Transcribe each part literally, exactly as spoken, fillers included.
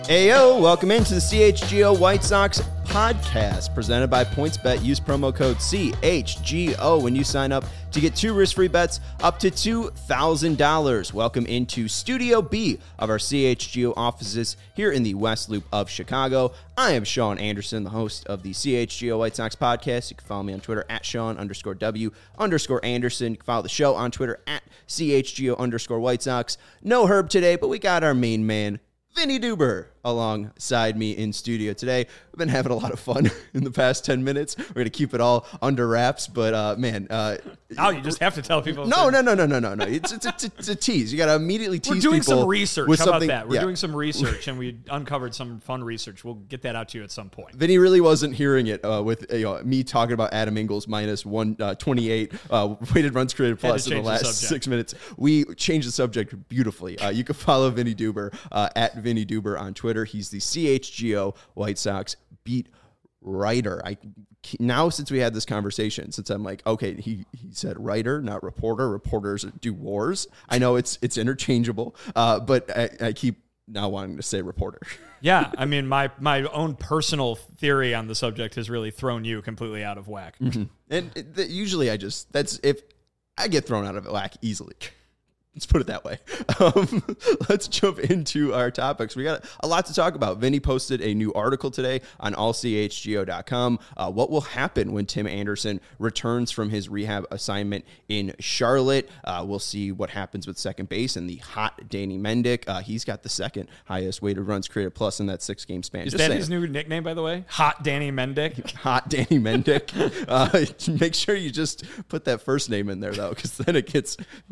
Ayo, welcome into the C H G O White Sox podcast presented by PointsBet. Use promo code C H G O when you sign up to get two risk-free bets up to two thousand dollars. Welcome into Studio B of our C H G O offices here in the West Loop of Chicago. I am Sean Anderson, the host of the C H G O White Sox podcast. You can follow me on Twitter at Sean underscore W underscore Anderson. You can follow the show on Twitter at C H G O underscore White Sox. No Herb today, but we got our main man, Vinny Duber, alongside me in studio today. We've been having a lot of fun in the past ten minutes. We're going to keep it all under wraps, but uh, man. Uh, now you just have to tell people. No, no, no, no, no, no, no. It's, it's, it's, it's a tease. You got to immediately tease people. We're doing some research. How about that? We're yeah. doing some research, and we uncovered some fun research. We'll get that out to you at some point. Vinny really wasn't hearing it uh, with you know, me talking about Adam Engels minus one twenty-eight uh, weighted runs created plus in the last the six minutes. We changed the subject beautifully. Uh, you can follow Vinny Duber uh, at Vinny Duber on Twitter. He's the C H G O White Sox beat writer. I now since we had this conversation, since I'm like, okay, he he said writer, not reporter. Reporters do wars. I know it's it's interchangeable, uh, but I, I keep now wanting to say reporter. Yeah, I mean, my my own personal theory on the subject has really thrown you completely out of whack. Mm-hmm. And th- usually, I just that's if I get thrown out of whack easily. Let's put it that way. Um, let's jump into our topics. We got a lot to talk about. Vinny posted a new article today on all c h g o dot com. Uh, what will happen when Tim Anderson returns from his rehab assignment in Charlotte? Uh, we'll see what happens with second base and the hot Danny Mendick. Uh, he's got the second highest weighted runs created plus in that six-game span. Is Just that saying. His new nickname, by the way? Hot Danny Mendick? Hot Danny Mendick. uh, make sure you just put that first name in there, though, because then it gets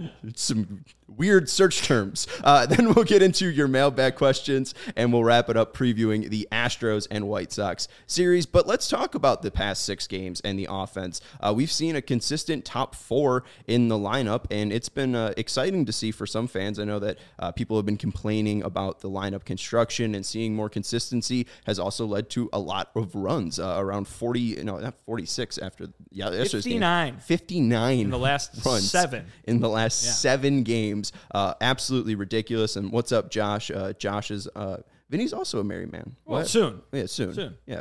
some weird search terms. Uh, then we'll get into your mailbag questions, and we'll wrap it up previewing the Astros and White Sox series. But let's talk about the past six games and the offense. Uh, we've seen a consistent top four in the lineup, and it's been uh, exciting to see for some fans. I know that uh, people have been complaining about the lineup construction, and seeing more consistency has also led to a lot of runs, uh, around forty, no, not forty-six after, yeah, fifty-nine. fifty-nine in the last runs seven. In the last yeah. seven games. Uh, absolutely ridiculous. And what's up, Josh? Uh, Josh is, uh, Vinny's also a married man. Well, what? soon. Yeah, soon. Soon. Yeah.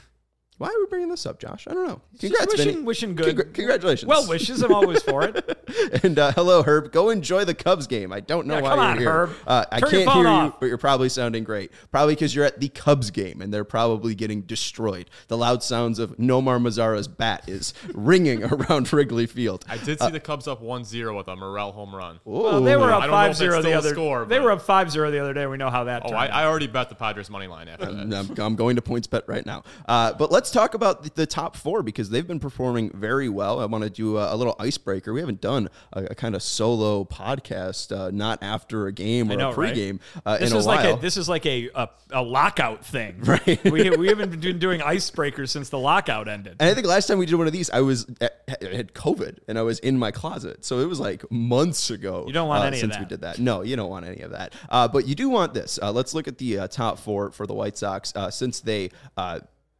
Why are we bringing this up, Josh? I don't know. Congrats, wishing, Vinny. wishing good. Congr- congratulations. Well wishes. I'm always for it. And uh, hello, Herb. Go enjoy the Cubs game. I don't know yeah, why come you're on, here. Herb. Uh, I Turn can't your phone hear off. you, but you're probably sounding great. Probably because you're at the Cubs game and they're probably getting destroyed. The loud sounds of Nomar Mazara's bat is ringing around Wrigley Field. I did see uh, the Cubs up one zero with a Morel home run. Well, they were up five zero the other score, They were up five zero the other day. We know how that Oh, turned I, out. I already bet the Padres money line after I'm, that. I'm going to PointsBet right now. Uh, but let's talk about the, the top four because they've been performing very well. I want to do a, a little icebreaker. We haven't done a, a kind of solo podcast, uh, not after a game or know, a pregame right? uh, this in is a like while. a, this is like a, a, a lockout thing. Right. we, we haven't been doing icebreakers since the lockout ended. And I think last time we did one of these, I was I had COVID and I was in my closet. So it was like months ago. You don't want uh, any of since that. we did that. No, you don't want any of that. Uh, but you do want this. Uh, let's look at the uh, top four for the White Sox uh, since they uh,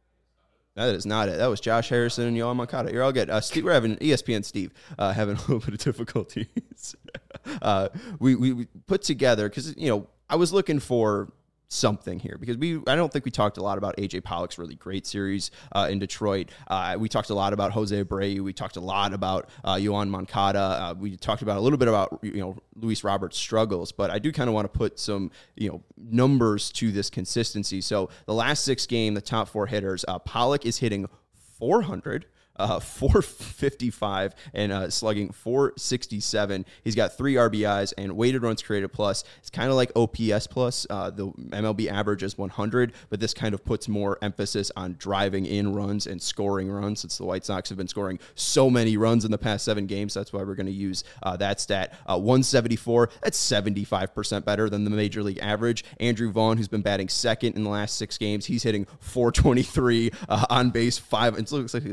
that is not it. That was Josh Harrison and Yoel Moncada. You're all good. Uh, Steve, we're having E S P N Steve uh, having a little bit of difficulties. uh, we, we we put together because you know I was looking for something here because we I don't think we talked a lot about A J Pollock's really great series uh, in Detroit. Uh, we talked a lot about Jose Abreu. We talked a lot about uh, Yoel Moncada. Uh, we talked about a little bit about you know Luis Roberts' struggles, but I do kind of want to put some you know numbers to this consistency. So the last six game, the top four hitters, uh, Pollock is hitting four hundred. Uh, four fifty-five and uh, slugging four sixty-seven. He's got three R B Is and weighted runs created plus. It's kind of like O P S plus. Uh, the M L B average is one hundred, but this kind of puts more emphasis on driving in runs and scoring runs since the White Sox have been scoring so many runs in the past seven games. That's why we're going to use uh, that stat. Uh, one seventy-four, that's seventy-five percent better than the Major League average. Andrew Vaughn, who's been batting second in the last six games, he's hitting four twenty-three uh, on base, five. It looks like his college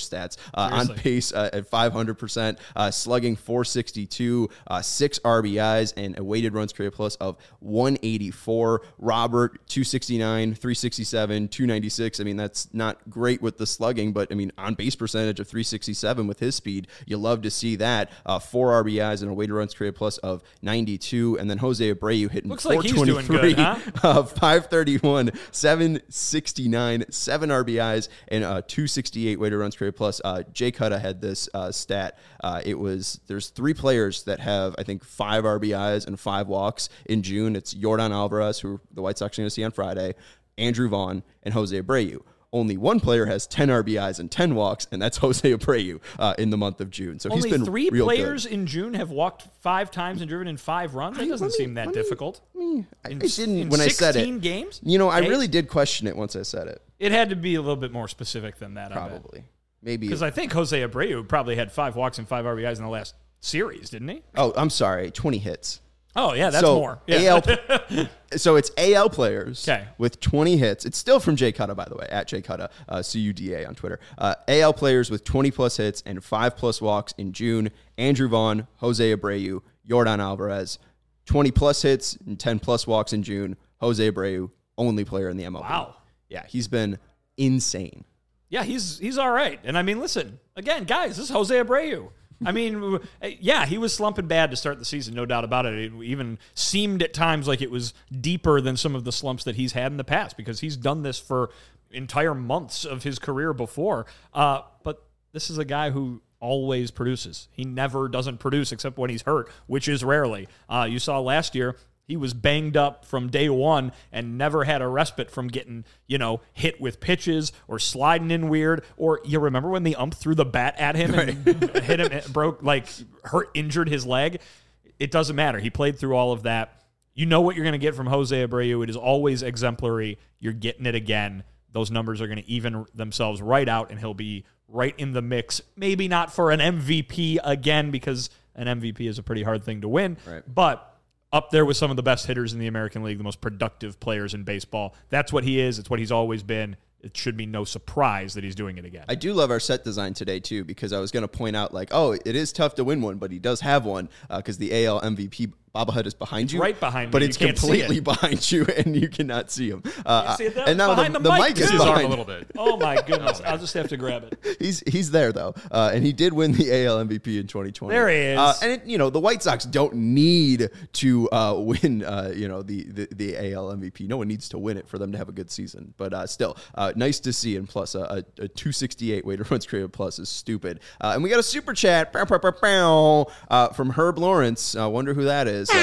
average stats. Uh, on Seriously. pace uh, at five hundred percent, uh, slugging four sixty-two, uh, six R B Is, and a weighted runs created plus of one eighty-four. Robert, two sixty-nine, three sixty-seven, two ninety-six. I mean, that's not great with the slugging, but I mean, on base percentage of three sixty-seven with his speed, you love to see that. Uh, four R B Is and a weighted runs created plus of ninety-two. And then Jose Abreu hitting Looks like he's doing four twenty-three, good, huh? uh, five thirty-one, seven sixty-nine, seven R B Is, and uh, two sixty-eight weighted runs created plus. Uh, Jay Cutta had this uh, stat. Uh, it was there's three players that have I think five R B Is and five walks in June. It's Yordan Alvarez, who the White Sox are going to see on Friday, Andrew Vaughn, and Jose Abreu. Only one player has ten R B Is and ten walks, and that's Jose Abreu uh, in the month of June. So Only he's been three real players good. in June have walked five times and driven in five runs. That doesn't let me- seem that let me- difficult. I mean, I In- I didn't in when I said sixteen it. games? You know, I Eight? really did question it once I said it. It had to be a little bit more specific than that. Probably, maybe. Because I think Jose Abreu probably had five walks and five R B Is in the last series, didn't he? Oh, I'm sorry, twenty hits. Oh yeah, that's so more. Yeah. A L, so it's A L players 'Kay. with twenty hits. It's still from Jay Cutta, by the way, at Jay Cutta, uh, C U D A on Twitter. Uh, A L players with twenty plus hits and five plus walks in June. Andrew Vaughn, Jose Abreu, Yordan Alvarez, twenty plus hits and ten plus walks in June. Jose Abreu, only player in the M L B. Wow. Yeah, he's been insane. Yeah, he's he's all right. And I mean, listen, again, guys, this is Jose Abreu. I mean, yeah, he was slumping bad to start the season, no doubt about it. It even seemed at times like it was deeper than some of the slumps that he's had in the past because he's done this for entire months of his career before. Uh, but this is a guy who always produces. He never doesn't produce except when he's hurt, which is rarely. Uh, you saw last year, he was banged up from day one and never had a respite from getting, you know, hit with pitches or sliding in weird. Or you remember when the ump threw the bat at him and hit him, it broke, like hurt, injured his leg? It doesn't matter. He played through all of that. You know what you're going to get from Jose Abreu. It is always exemplary. You're getting it again. Those numbers are going to even themselves right out, and he'll be right in the mix. Maybe not for an M V P again, because an M V P is a pretty hard thing to win. Right. But up there with some of the best hitters in the American League, the most productive players in baseball. That's what he is. It's what he's always been. It should be no surprise that he's doing it again. I do love our set design today, too, because I was going to point out, like, oh, it is tough to win one, but he does have one because uh, the A L M V P bobblehead is behind It's you. right behind me. But You it's can't see completely it. behind you, and you cannot see him. Uh, see it there? and now Behind the, the the mic, mic too. is His arm behind a little bit. Oh, my goodness. I'll just have to grab it. He's he's there though, uh, and he did win the A L M V P in twenty twenty. There he is. Uh, and it, you know the White Sox don't need to uh, win. Uh, you know the, the the A L M V P. No one needs to win it for them to have a good season. But uh, still, uh, nice to see. And plus, a, a, a two sixty-eight weighted runs created plus is stupid. Uh, and we got a super chat bow, bow, bow, bow, uh, from Herb Lawrence. I uh, wonder who that is.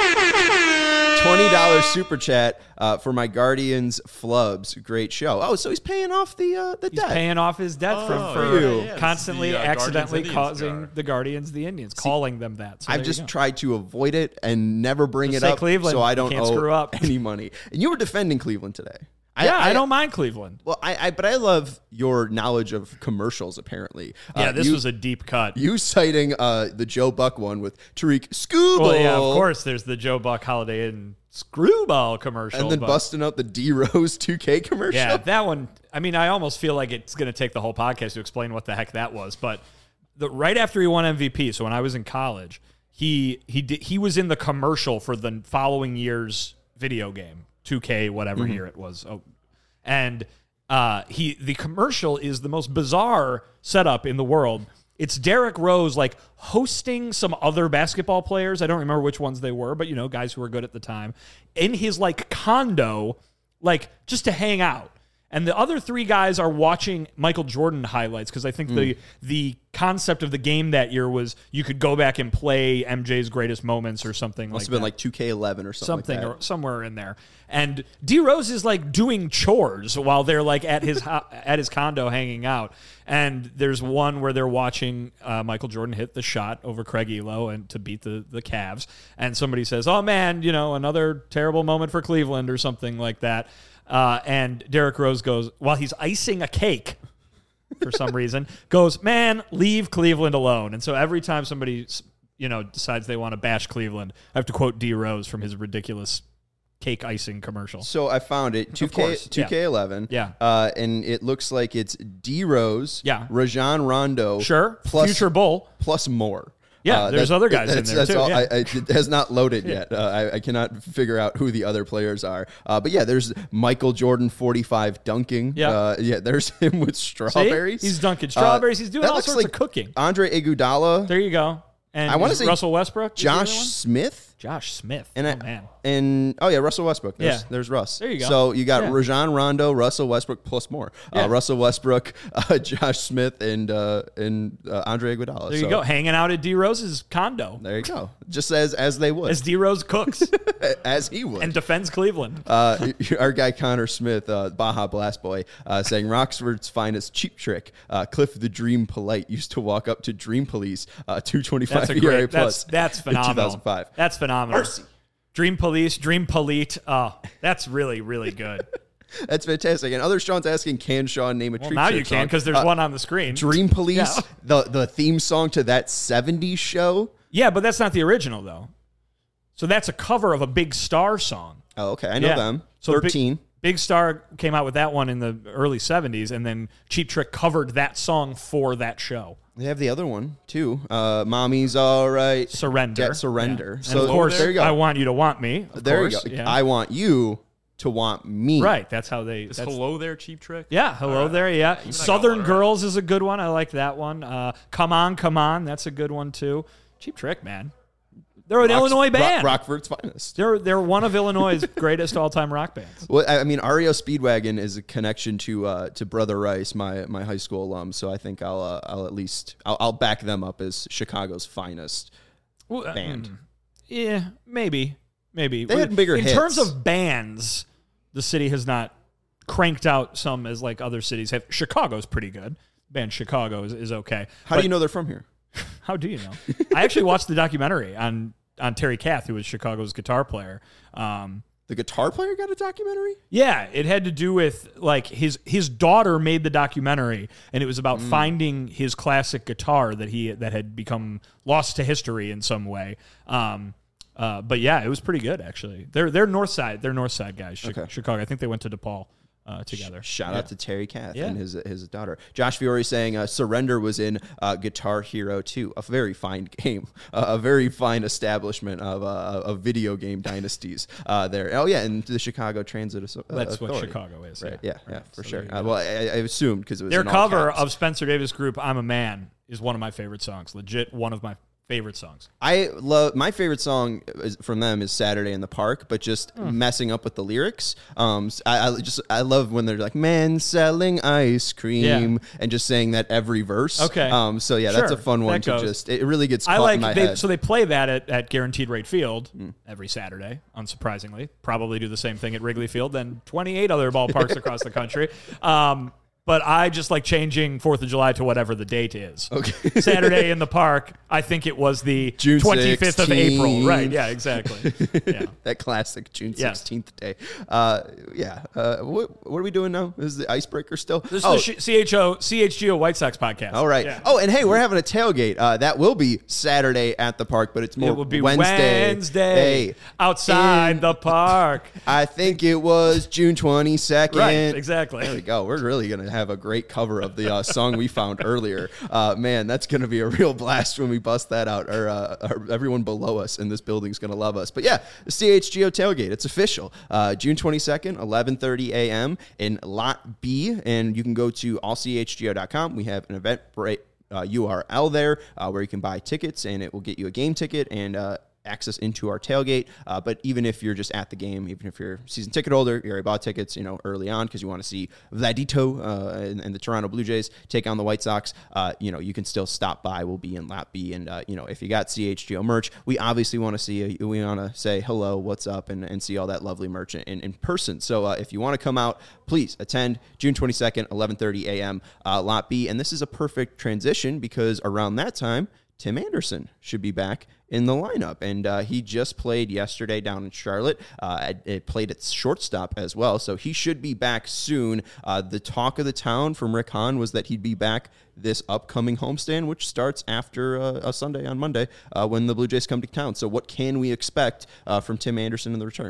Uh, twenty dollars super chat uh, for my Guardians flubs. Great show. Oh, so he's paying off the uh, the He's debt. paying off his debt Oh, for, for yeah, yeah, yeah. constantly The, uh, accidentally Guardians Indians causing jar. the Guardians the Indians, calling them that. So I've there you just go. tried to avoid it and never bring Just it say up, Cleveland. so I You don't can't owe screw up. any money. And you were defending Cleveland today. Yeah, I, don't mind Cleveland. Well, I, I but I love your knowledge of commercials. Apparently, Yeah, Uh, this you, was a deep cut. you citing uh, the Joe Buck one with Tariq Scooble. Well, yeah, of course. There's the Joe Buck Holiday Inn Screwball commercial, and then but- busting out the D Rose two K commercial. Yeah, that one. I mean, I almost feel like it's going to take the whole podcast to explain what the heck that was. But the, right after he won M V P, so when I was in college, he he did, he was in the commercial for the following year's video game, two K, whatever year it was. Oh, and uh, he the commercial is the most bizarre setup in the world. It's Derrick Rose like hosting some other basketball players. I don't remember which ones they were, but you know, guys who were good at the time, in his like condo, like just to hang out. And the other three guys are watching Michael Jordan highlights because I think Mm. the the concept of the game that year was you could go back and play M J's greatest moments or something Must like have been that. like two K eleven or something. something like or somewhere in there. And D Rose is like doing chores while they're like at his ho- at his condo hanging out. And there's one where they're watching uh, Michael Jordan hit the shot over Craig Elo and to beat the the Cavs. And somebody says, "Oh man, you know, another terrible moment for Cleveland" or something like that. Uh, and Derrick Rose goes, while he's icing a cake for some reason, goes, "Man, leave Cleveland alone." And so every time somebody, you know, decides they want to bash Cleveland, I have to quote D Rose from his ridiculous cake icing commercial. So I found it. two K course, two K eleven. Yeah. Uh, and it looks like it's D Rose. Yeah. Rajon Rondo. Sure. Plus, Future Bull. plus more. Yeah, Uh, there's that- other guys in that's, there, that's too, all, yeah. I, I, it has not loaded yet. Uh, I, I cannot figure out who the other players are. Uh, but yeah, there's Michael Jordan forty-five dunking. Yeah. Uh, yeah, there's him with See? strawberries. He's dunking strawberries. Uh, He's doing that all looks sorts like of cooking. Andre Iguodala, There you go. And I wanna is say Russell Westbrook. is the other Josh one? Smith. Josh Smith. And oh, I, man. and oh yeah, Russell Westbrook. There's, Yeah. there's Russ. There you go. So you got Yeah. Rajon Rondo, Russell Westbrook plus more. Yeah. Uh, Russell Westbrook, uh, Josh Smith, and uh, and uh, Andre Iguodala. There so you go. Hanging out at D Rose's condo There you go. Just as as they would, as D Rose cooks as he would. and defends Cleveland. Uh, our guy Connor Smith, uh, Baja Blast Boy, uh, saying Roxford's finest cheap trick. Uh, Cliff the Dream Polite used to walk up to Dream Police, uh, two twenty-five That's a E R A great. plus. That's that's in phenomenal. two thousand five. That's phenomenal. Mercy. Dream Police, Dream Polite. Oh, that's really really good. That's fantastic. And other Sean's asking, can Sean name a Well, treat now trick you can song? because there's Uh, one on the screen. Dream Police, Yeah. the the theme song to that seventies show. Yeah, but that's not the original though. So that's a cover of a Big Star song. Oh, okay. I know Yeah. them. So Big- thirteen. Big Star came out with that one in the early seventies, and then Cheap Trick covered that song for that show. They have the other one, too. Uh, Mommy's All Right. Surrender. Get Surrender. Yeah. So and of course, there you go. I Want You to Want Me. Of there course. you go. Yeah. I want you to want me. right. That's how they. Is That's, hello there, Cheap Trick? yeah. Hello All right. there. Yeah. Even I got Southern one right. Girls is a good one. I like that one. Uh, come on, come on. That's a good one too. Cheap Trick, man. They're an Rox- Illinois band. Rock, Rockford's finest. They're they're one of Illinois' greatest all time rock bands. Well, I I mean, R E O Speedwagon is a connection to uh, to Brother Rice, my my high school alum. So I think I'll uh, I'll at least I'll, I'll back them up as Chicago's finest Well, uh, band. mm, Yeah, maybe, maybe They had bigger in hits. terms of bands. The city has not cranked out some as like other cities have. Chicago's pretty good. Band Chicago is, is okay. How But do you know they're from here? How do you know? I actually watched the documentary on on Terry Kath, who was Chicago's guitar player. Um, The guitar player got a documentary? yeah, it had to do with like his his daughter made the documentary, and it was about Mm. finding his classic guitar that he that had become lost to history in some way. Um, uh, but yeah, it was pretty good actually. They're they're North Side, they're North Side guys, Chi- Okay. Chicago. I think they went to DePaul uh, together. Shout Yeah. out to Terry Kath Yeah. and his his daughter. Josh Fiore saying uh, Surrender was in uh, Guitar Hero two, a very fine game, uh, a very fine establishment of uh, of video game dynasties uh, there. Oh yeah, and the Chicago Transit Asso- uh, That's what Authority. Chicago is. Right. Yeah, Yeah, yeah, Right. for So sure. there you Uh, go. well, I, I assumed because it was Their in all cover caps. of Spencer Davis Group "I'm a Man" is one of my favorite songs. Legit, one of my favorite songs. I love my favorite song is, from them is Saturday in the Park, but just Hmm. messing up with the lyrics. Um, I, I just I love when they're like "men selling ice cream" Yeah. and just saying that every verse. Okay. Um, so yeah, that's a Sure. fun one That to goes. just. It really gets I caught like in my they, head. so they play that at, at Guaranteed Rate Field Mm. every Saturday, unsurprisingly. Probably do the same thing at Wrigley Field and twenty-eight other ballparks across the country. Um, but I just like changing Fourth of July to whatever the date is. Okay. Saturday in the Park, I think it was the June twenty-fifth of April. sixteenth. Right, yeah, exactly. Yeah. that classic June Yeah. sixteenth day. Uh, yeah. Uh, what, what are we doing now? Is the icebreaker still? This oh, is the C H O C H G O White Sox podcast. all right. Yeah. Oh, and hey, we're having a tailgate. Uh, that will be Saturday at the park, but it's more It will be Wednesday. Wednesday, Hey, outside in- the park. I think it was June twenty-second. Right, exactly. There we go. We're really going to have a great cover of the uh, song we found earlier. Uh, man, that's going to be a real blast when we bust that out. Our, uh, our, everyone below us in this building is going to love us. But yeah, the C H G O tailgate. It's official. Uh, June twenty-second, eleven thirty a.m. in Lot B. And you can go to all c h g o dot com. We have an event break. Uh, U R L there uh, where you can buy tickets, and it will get you a game ticket and uh, access into our tailgate. Uh, but even if you're just at the game, even if you're a season ticket holder, you already bought tickets, you know, early on because you want to see Vladito uh, and, and the Toronto Blue Jays take on the White Sox, uh, you know, you can still stop by. We'll be in Lot B. And, uh, you know, if you got C H G O merch, we obviously want to see you. We want to say hello, what's up, and, and see all that lovely merch in, in person. So uh, if you want to come out, please attend June twenty-second, eleven thirty a.m. Uh, Lot B. And this is a perfect transition because around that time, Tim Anderson should be back in the lineup. And uh, he just played yesterday down in Charlotte. Uh, it, it played at shortstop as well. So he should be back soon. Uh, the talk of the town from Rick Hahn was that he'd be back this upcoming homestand, which starts after uh, a Sunday on Monday uh, when the Blue Jays come to town. So what can we expect uh, from Tim Anderson in the return?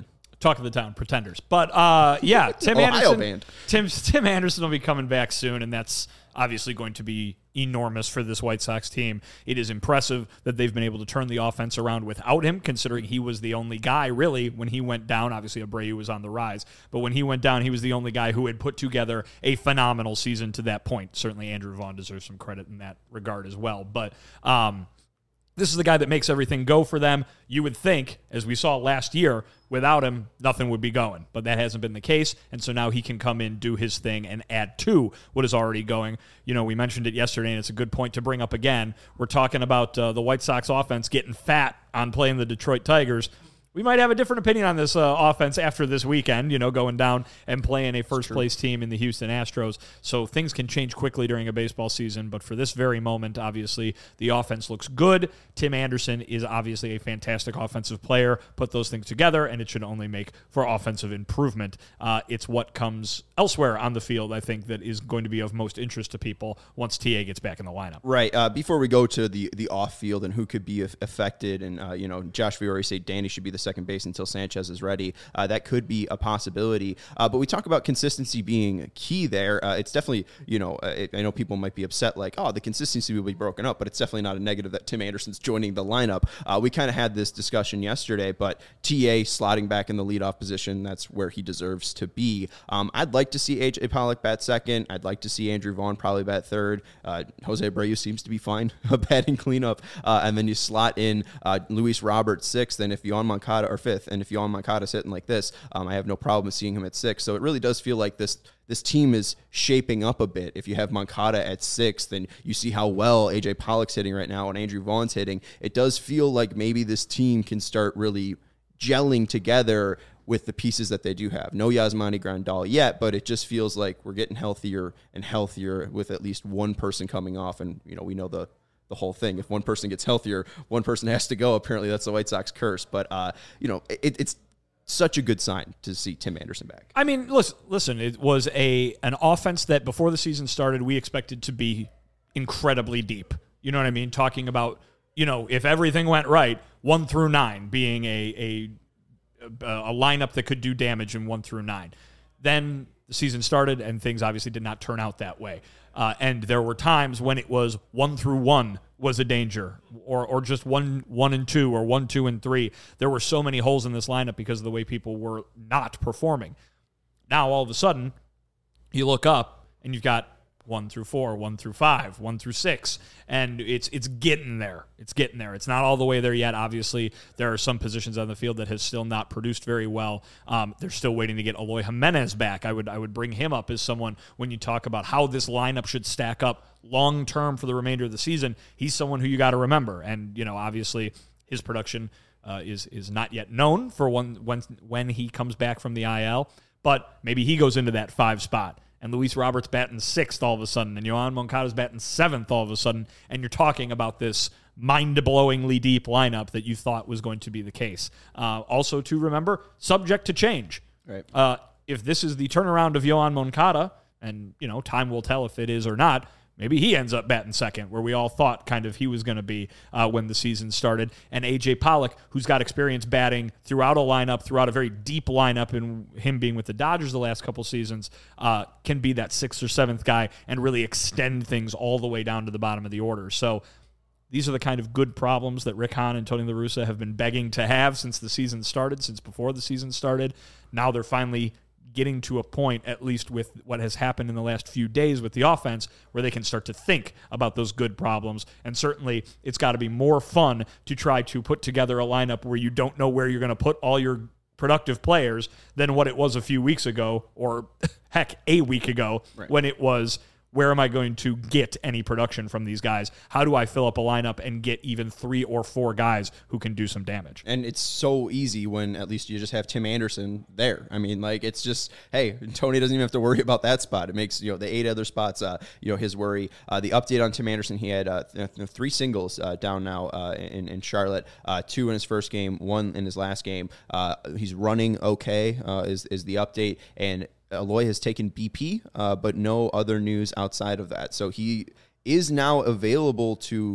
Talk of the town, Pretenders. But uh, yeah, Tim Ohio Anderson. band. Tim Tim Anderson will be coming back soon, and that's obviously going to be enormous for this White Sox team. It is impressive that they've been able to turn the offense around without him, considering he was the only guy, really, when he went down. Obviously, Abreu was on the rise, but when he went down, he was the only guy who had put together a phenomenal season to that point. Certainly, Andrew Vaughn deserves some credit in that regard as well. But um, this is the guy that makes everything go for them. You would think, as we saw last year, without him, nothing would be going. But that hasn't been the case, and so now he can come in, do his thing, and add to what is already going. You know, we mentioned it yesterday, and it's a good point to bring up again. We're talking about uh, the White Sox offense getting fat on playing the Detroit Tigers. We might have a different opinion on this uh, offense after this weekend, you know, going down and playing a first-place team in the Houston Astros. So things can change quickly during a baseball season, but for this very moment, obviously, the offense looks good. Tim Anderson is obviously a fantastic offensive player. Put those things together, and it should only make for offensive improvement. Uh, it's what comes elsewhere on the field, I think, that is going to be of most interest to people once T A gets back in the lineup. Right. Uh, before we go to the the off-field and who could be affected, and, uh, you know, Josh, we already say Danny should be the second base until Sanchez is ready. Uh, that could be a possibility. Uh, but we talk about consistency being key there. Uh, it's definitely, you know, uh, it, I know people might be upset like, oh, the consistency will be broken up, but it's definitely not a negative that Tim Anderson's joining the lineup. Uh, we kind of had this discussion yesterday, but T A slotting back in the leadoff position, that's where he deserves to be. Um, I'd like to see A J Pollock bat second. I'd like to see Andrew Vaughn probably bat third. Uh, Jose Abreu seems to be fine batting cleanup. Uh, and then you slot in uh, Luis Robert sixth, and if Yoan Moncada or fifth, and if Yoan Moncada's hitting like this, um, I have no problem with seeing him at six. So it really does feel like this this team is shaping up a bit. If you have Moncada at sixth, then you see how well A J Pollock's hitting right now and Andrew Vaughn's hitting. It does feel like maybe this team can start really gelling together with the pieces that they do have. No Yasmani Grandal yet, but it just feels like we're getting healthier and healthier with at least one person coming off. And, you know, we know the the whole thing. If one person gets healthier, one person has to go. Apparently that's the White Sox curse. But, uh, you know, it, it's such a good sign to see Tim Anderson back. I mean, listen, listen, it was a an offense that before the season started, we expected to be incredibly deep. You know what I mean? Talking about, you know, if everything went right, one through nine being a a, a lineup that could do damage in one through nine. Then the season started, and things obviously did not turn out that way. Uh, and there were times when it was one through one was a danger, or or just one one and two, or one, two, and three. There were so many holes in this lineup because of the way people were not performing. Now, all of a sudden, you look up, and you've got one through four, one through five, one through six, and it's it's getting there. It's getting there. It's not all the way there yet. Obviously, there are some positions on the field that have still not produced very well. Um, they're still waiting to get Eloy Jimenez back. I would I would bring him up as someone when you talk about how this lineup should stack up long term for the remainder of the season. He's someone who you got to remember, and you know obviously his production uh, is is not yet known for when when when he comes back from the I L, but maybe he goes into that five spot. And Luis Roberts batting sixth all of a sudden, and Yoan Moncada's batting seventh all of a sudden, and you're talking about this mind-blowingly deep lineup that you thought was going to be the case. Uh, also, to remember, subject to change. Right. Uh, if this is the turnaround of Yoan Moncada, and you know, time will tell if it is or not, maybe he ends up batting second, where we all thought kind of he was going to be uh, when the season started. And A J Pollock, who's got experience batting throughout a lineup, throughout a very deep lineup, and him being with the Dodgers the last couple seasons, uh, can be that sixth or seventh guy and really extend things all the way down to the bottom of the order. So these are the kind of good problems that Rick Hahn and Tony La Russa have been begging to have since the season started, since before the season started. Now they're finally getting to a point, at least with what has happened in the last few days with the offense, where they can start to think about those good problems. And certainly it's got to be more fun to try to put together a lineup where you don't know where you're going to put all your productive players than what it was a few weeks ago, or heck, a week ago, right, when it was, where am I going to get any production from these guys? How do I fill up a lineup and get even three or four guys who can do some damage? And it's so easy when at least you just have Tim Anderson there. I mean, like, it's just, hey, Tony doesn't even have to worry about that spot. It makes, you know, the eight other spots, uh, you know, his worry. Uh, the update on Tim Anderson, he had uh, th- three singles uh, down now uh, in, in Charlotte, uh, two in his first game, one in his last game. Uh, he's running okay uh, is, is the update. And Eloy has taken B P, uh, but no other news outside of that. So he is now available to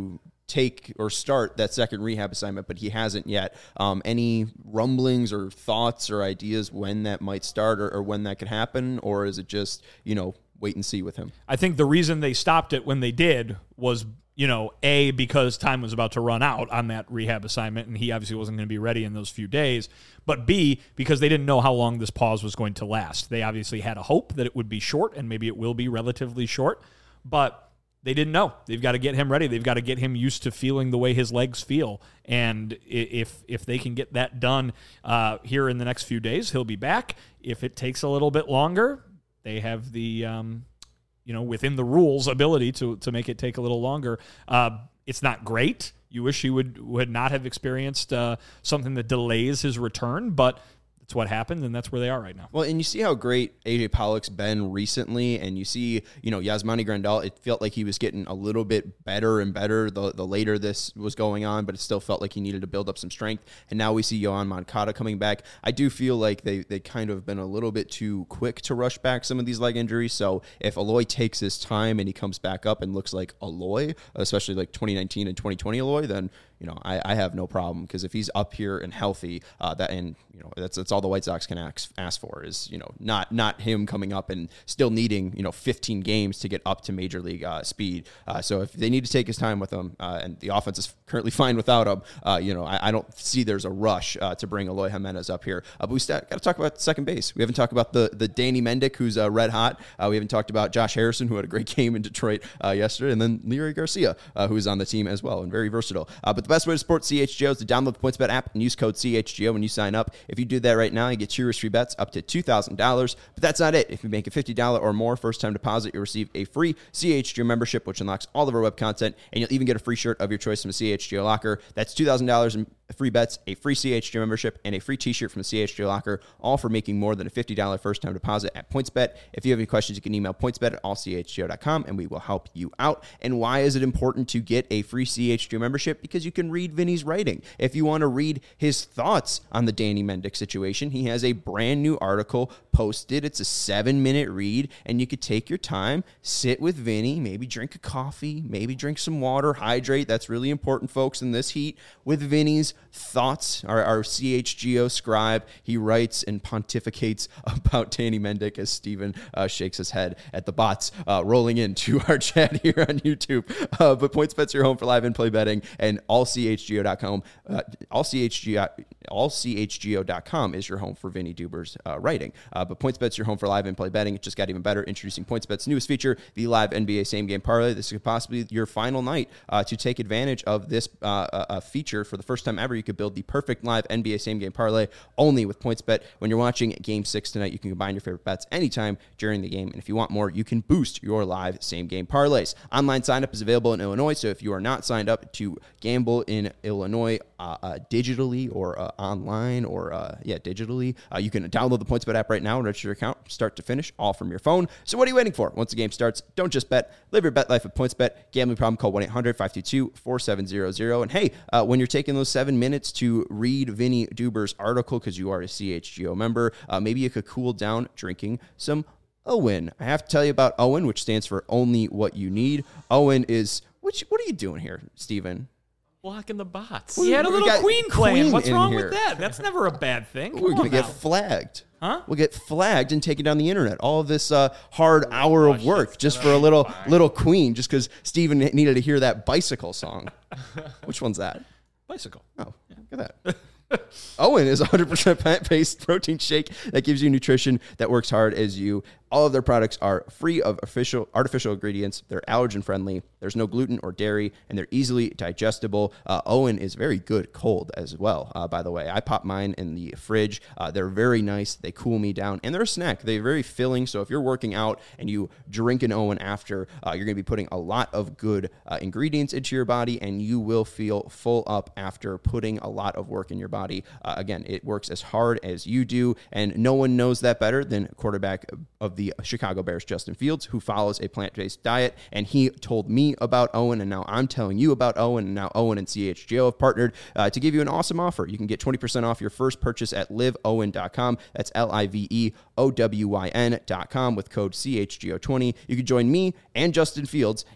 take or start that second rehab assignment, but he hasn't yet. Um, any rumblings or thoughts or ideas when that might start or, or when that could happen? Or is it just, you know, wait and see with him? I think the reason they stopped it when they did was, you know, A, because time was about to run out on that rehab assignment, and he obviously wasn't going to be ready in those few days. But B, because they didn't know how long this pause was going to last. They obviously had a hope that it would be short, and maybe it will be relatively short, but they didn't know. They've got to get him ready. They've got to get him used to feeling the way his legs feel. And if if they can get that done uh, here in the next few days, he'll be back. If it takes a little bit longer, they have the, um, you know, within the rules ability to to make it take a little longer. Uh, it's not great. You wish he would, would not have experienced uh, something that delays his return, but it's what happened, and that's where they are right now. Well, and you see how great A J Pollock's been recently, and you see, you know, Yasmani Grandal, it felt like he was getting a little bit better and better the, the later this was going on, but it still felt like he needed to build up some strength. And now we see Yohan Moncada coming back. I do feel like they, they kind of been a little bit too quick to rush back some of these leg injuries. So if Aloy takes his time and he comes back up and looks like Aloy, especially like twenty nineteen and twenty twenty Aloy, then, you know, I, I have no problem, because if he's up here and healthy, uh, that and you know that's that's all the White Sox can ask, ask for is, you know, not not him coming up and still needing, you know, fifteen games to get up to major league uh, speed. Uh, so if they need to take his time with him, uh, and the offense is currently fine without him, uh, you know, I, I don't see there's a rush uh, to bring Aloy Jimenez up here. Uh, but we got to talk about second base. We haven't talked about the the Danny Mendick, who's uh, red hot. Uh, we haven't talked about Josh Harrison, who had a great game in Detroit uh, yesterday, and then Leury Garcia, uh, who's on the team as well and very versatile. Uh, but the best way to support C H G O is to download the PointsBet app and use code C H G O when you sign up. If you do that right now, you get two risk-free bets up to two thousand dollars. But that's not it. If you make a fifty dollars or more first-time deposit, you'll receive a free C H G O membership, which unlocks all of our web content, and you'll even get a free shirt of your choice from a C H G O locker. That's two thousand dollars in free bets, a free C H G O membership, and a free t-shirt from the C H G O locker, all for making more than a fifty dollars first-time deposit at PointsBet. If you have any questions, you can email pointsbet at all c h g o dot com, and we will help you out. And why is it important to get a free C H G O membership? Because you can read Vinny's writing. If you want to read his thoughts on the Danny Mendick situation, he has a brand new article posted. It's a seven-minute read, and you could take your time, sit with Vinny, maybe drink a coffee, maybe drink some water, hydrate. That's really important, folks, in this heat, with Vinny's thoughts. Our, our C H G O scribe, he writes and pontificates about Danny Mendick as Steven uh, shakes his head at the bots uh, rolling into our chat here on YouTube. Uh, but PointsBet's your home for live in-play betting, and all c h g o dot com, uh, all c h g o, all c h g o dot com is your home for Vinny Duber's uh, writing. Uh, but PointsBet's your home for live in-play betting. It just got even better. Introducing PointsBet's newest feature, the live N B A same-game parlay. This could possibly be your final night uh, to take advantage of this uh, uh, feature for the first time ever. You could build the perfect live N B A same-game parlay only with PointsBet. When you're watching Game six tonight, you can combine your favorite bets anytime during the game. And if you want more, you can boost your live same-game parlays. Online sign-up is available in Illinois, so if you are not signed up to gamble in Illinois uh, uh, digitally or uh, online or, uh, yeah, digitally, uh, you can download the PointsBet app right now and register your account start to finish, all from your phone. So what are you waiting for? Once the game starts, don't just bet. Live your bet life with PointsBet. Gambling problem, call one eight hundred five two two four seven zero zero. And hey, uh, when you're taking those seven minutes to read Vinny Duber's article because you are a C H G O member, uh, maybe you could cool down drinking some Owen. I have to tell you about Owen, which stands for Only What You Need. Owen is, which, what are you doing here, Steven? Blocking the bots. He had a We little got Queen playing. Queen What's in wrong here. with that? That's never a bad thing. Come We're going on to get now. flagged. Huh? We'll get flagged and taken down the internet. All of this uh, hard hour of work just for a little little Queen, just because Steven needed to hear that bicycle song. Which one's that? Bicycle. Oh, look at that. Owen is one hundred percent plant-based protein shake that gives you nutrition that works hard as you. All of their products are free of official artificial ingredients. They're allergen-friendly. There's no gluten or dairy, and they're easily digestible. Uh, Owen is very good cold as well, uh, by the way. I pop mine in the fridge. Uh, they're very nice. They cool me down, and they're a snack. They're very filling, so if you're working out and you drink an Owen after, uh, you're going to be putting a lot of good uh, ingredients into your body, and you will feel full up after putting a lot of work in your body. Uh, again, it works as hard as you do, and no one knows that better than quarterback of the Chicago Bears, Justin Fields, who follows a plant-based diet, and he told me about Owen, and now I'm telling you about Owen, and now Owen and C H G O have partnered uh, to give you an awesome offer. You can get twenty percent off your first purchase at live owen dot com. That's L I V E O W Y N dot com with code C H G O twenty. You can join me and Justin Fields and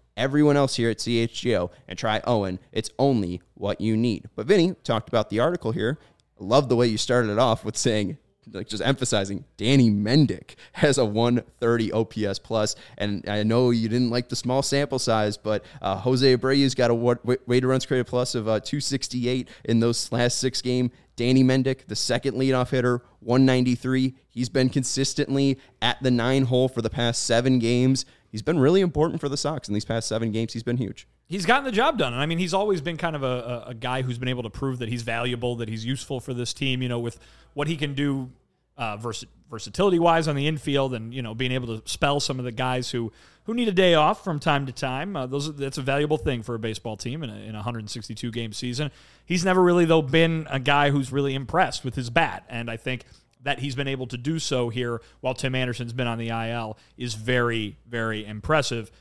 everyone else here at C H G O and try Owen. It's only what you need. But Vinny talked about the article here. I love the way you started it off with saying, like just emphasizing, Danny Mendick has a one thirty O P S plus, and I know you didn't like the small sample size, but uh, Jose Abreu's got a weighted runs created plus of uh, two sixty-eight in those last six games. Danny Mendick, the second leadoff hitter, one ninety-three. He's been consistently at the nine hole for the past seven games. He's been really important for the Sox in these past seven games. He's been huge. He's gotten the job done. And I mean, he's always been kind of a, a guy who's been able to prove that he's valuable, that he's useful for this team, you know, with what he can do uh, vers- versatility-wise on the infield and, you know, being able to spell some of the guys who, who need a day off from time to time. Uh, those That's a valuable thing for a baseball team in a, in a one sixty-two game season. He's never really, though, been a guy who's really impressed with his bat. And I think that he's been able to do so here while Tim Anderson's been on the I L is very, very impressive.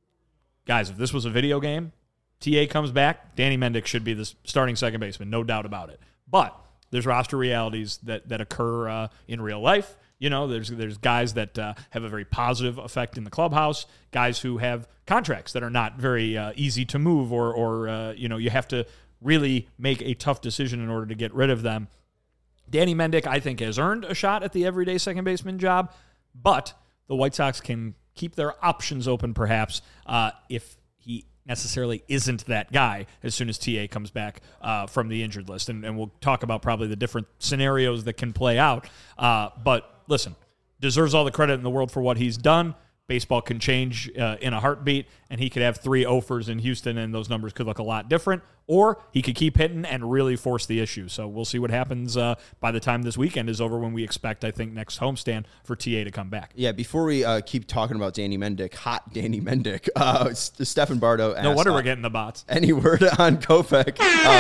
Guys, if this was a video game, T A comes back, Danny Mendick should be the starting second baseman, no doubt about it. But there's roster realities that that occur uh, in real life. You know, there's there's guys that uh, have a very positive effect in the clubhouse, guys who have contracts that are not very uh, easy to move, or, or uh, you know, you have to really make a tough decision in order to get rid of them. Danny Mendick, I think, has earned a shot at the everyday second baseman job, but the White Sox can keep their options open, perhaps, uh, if he necessarily isn't that guy as soon as T A comes back uh, from the injured list. And, and we'll talk about probably the different scenarios that can play out. Uh, but listen, deserves all the credit in the world for what he's done. Baseball can change uh, in a heartbeat, and he could have three offers in Houston, and those numbers could look a lot different. Or he could keep hitting and really force the issue. So we'll see what happens uh, by the time this weekend is over, when we expect, I think, next homestand for T A to come back. Yeah, before we uh, keep talking about Danny Mendick, hot Danny Mendick, uh, Stephen Bardo asked, no wonder uh, we're getting the bots. Any word on Kopech?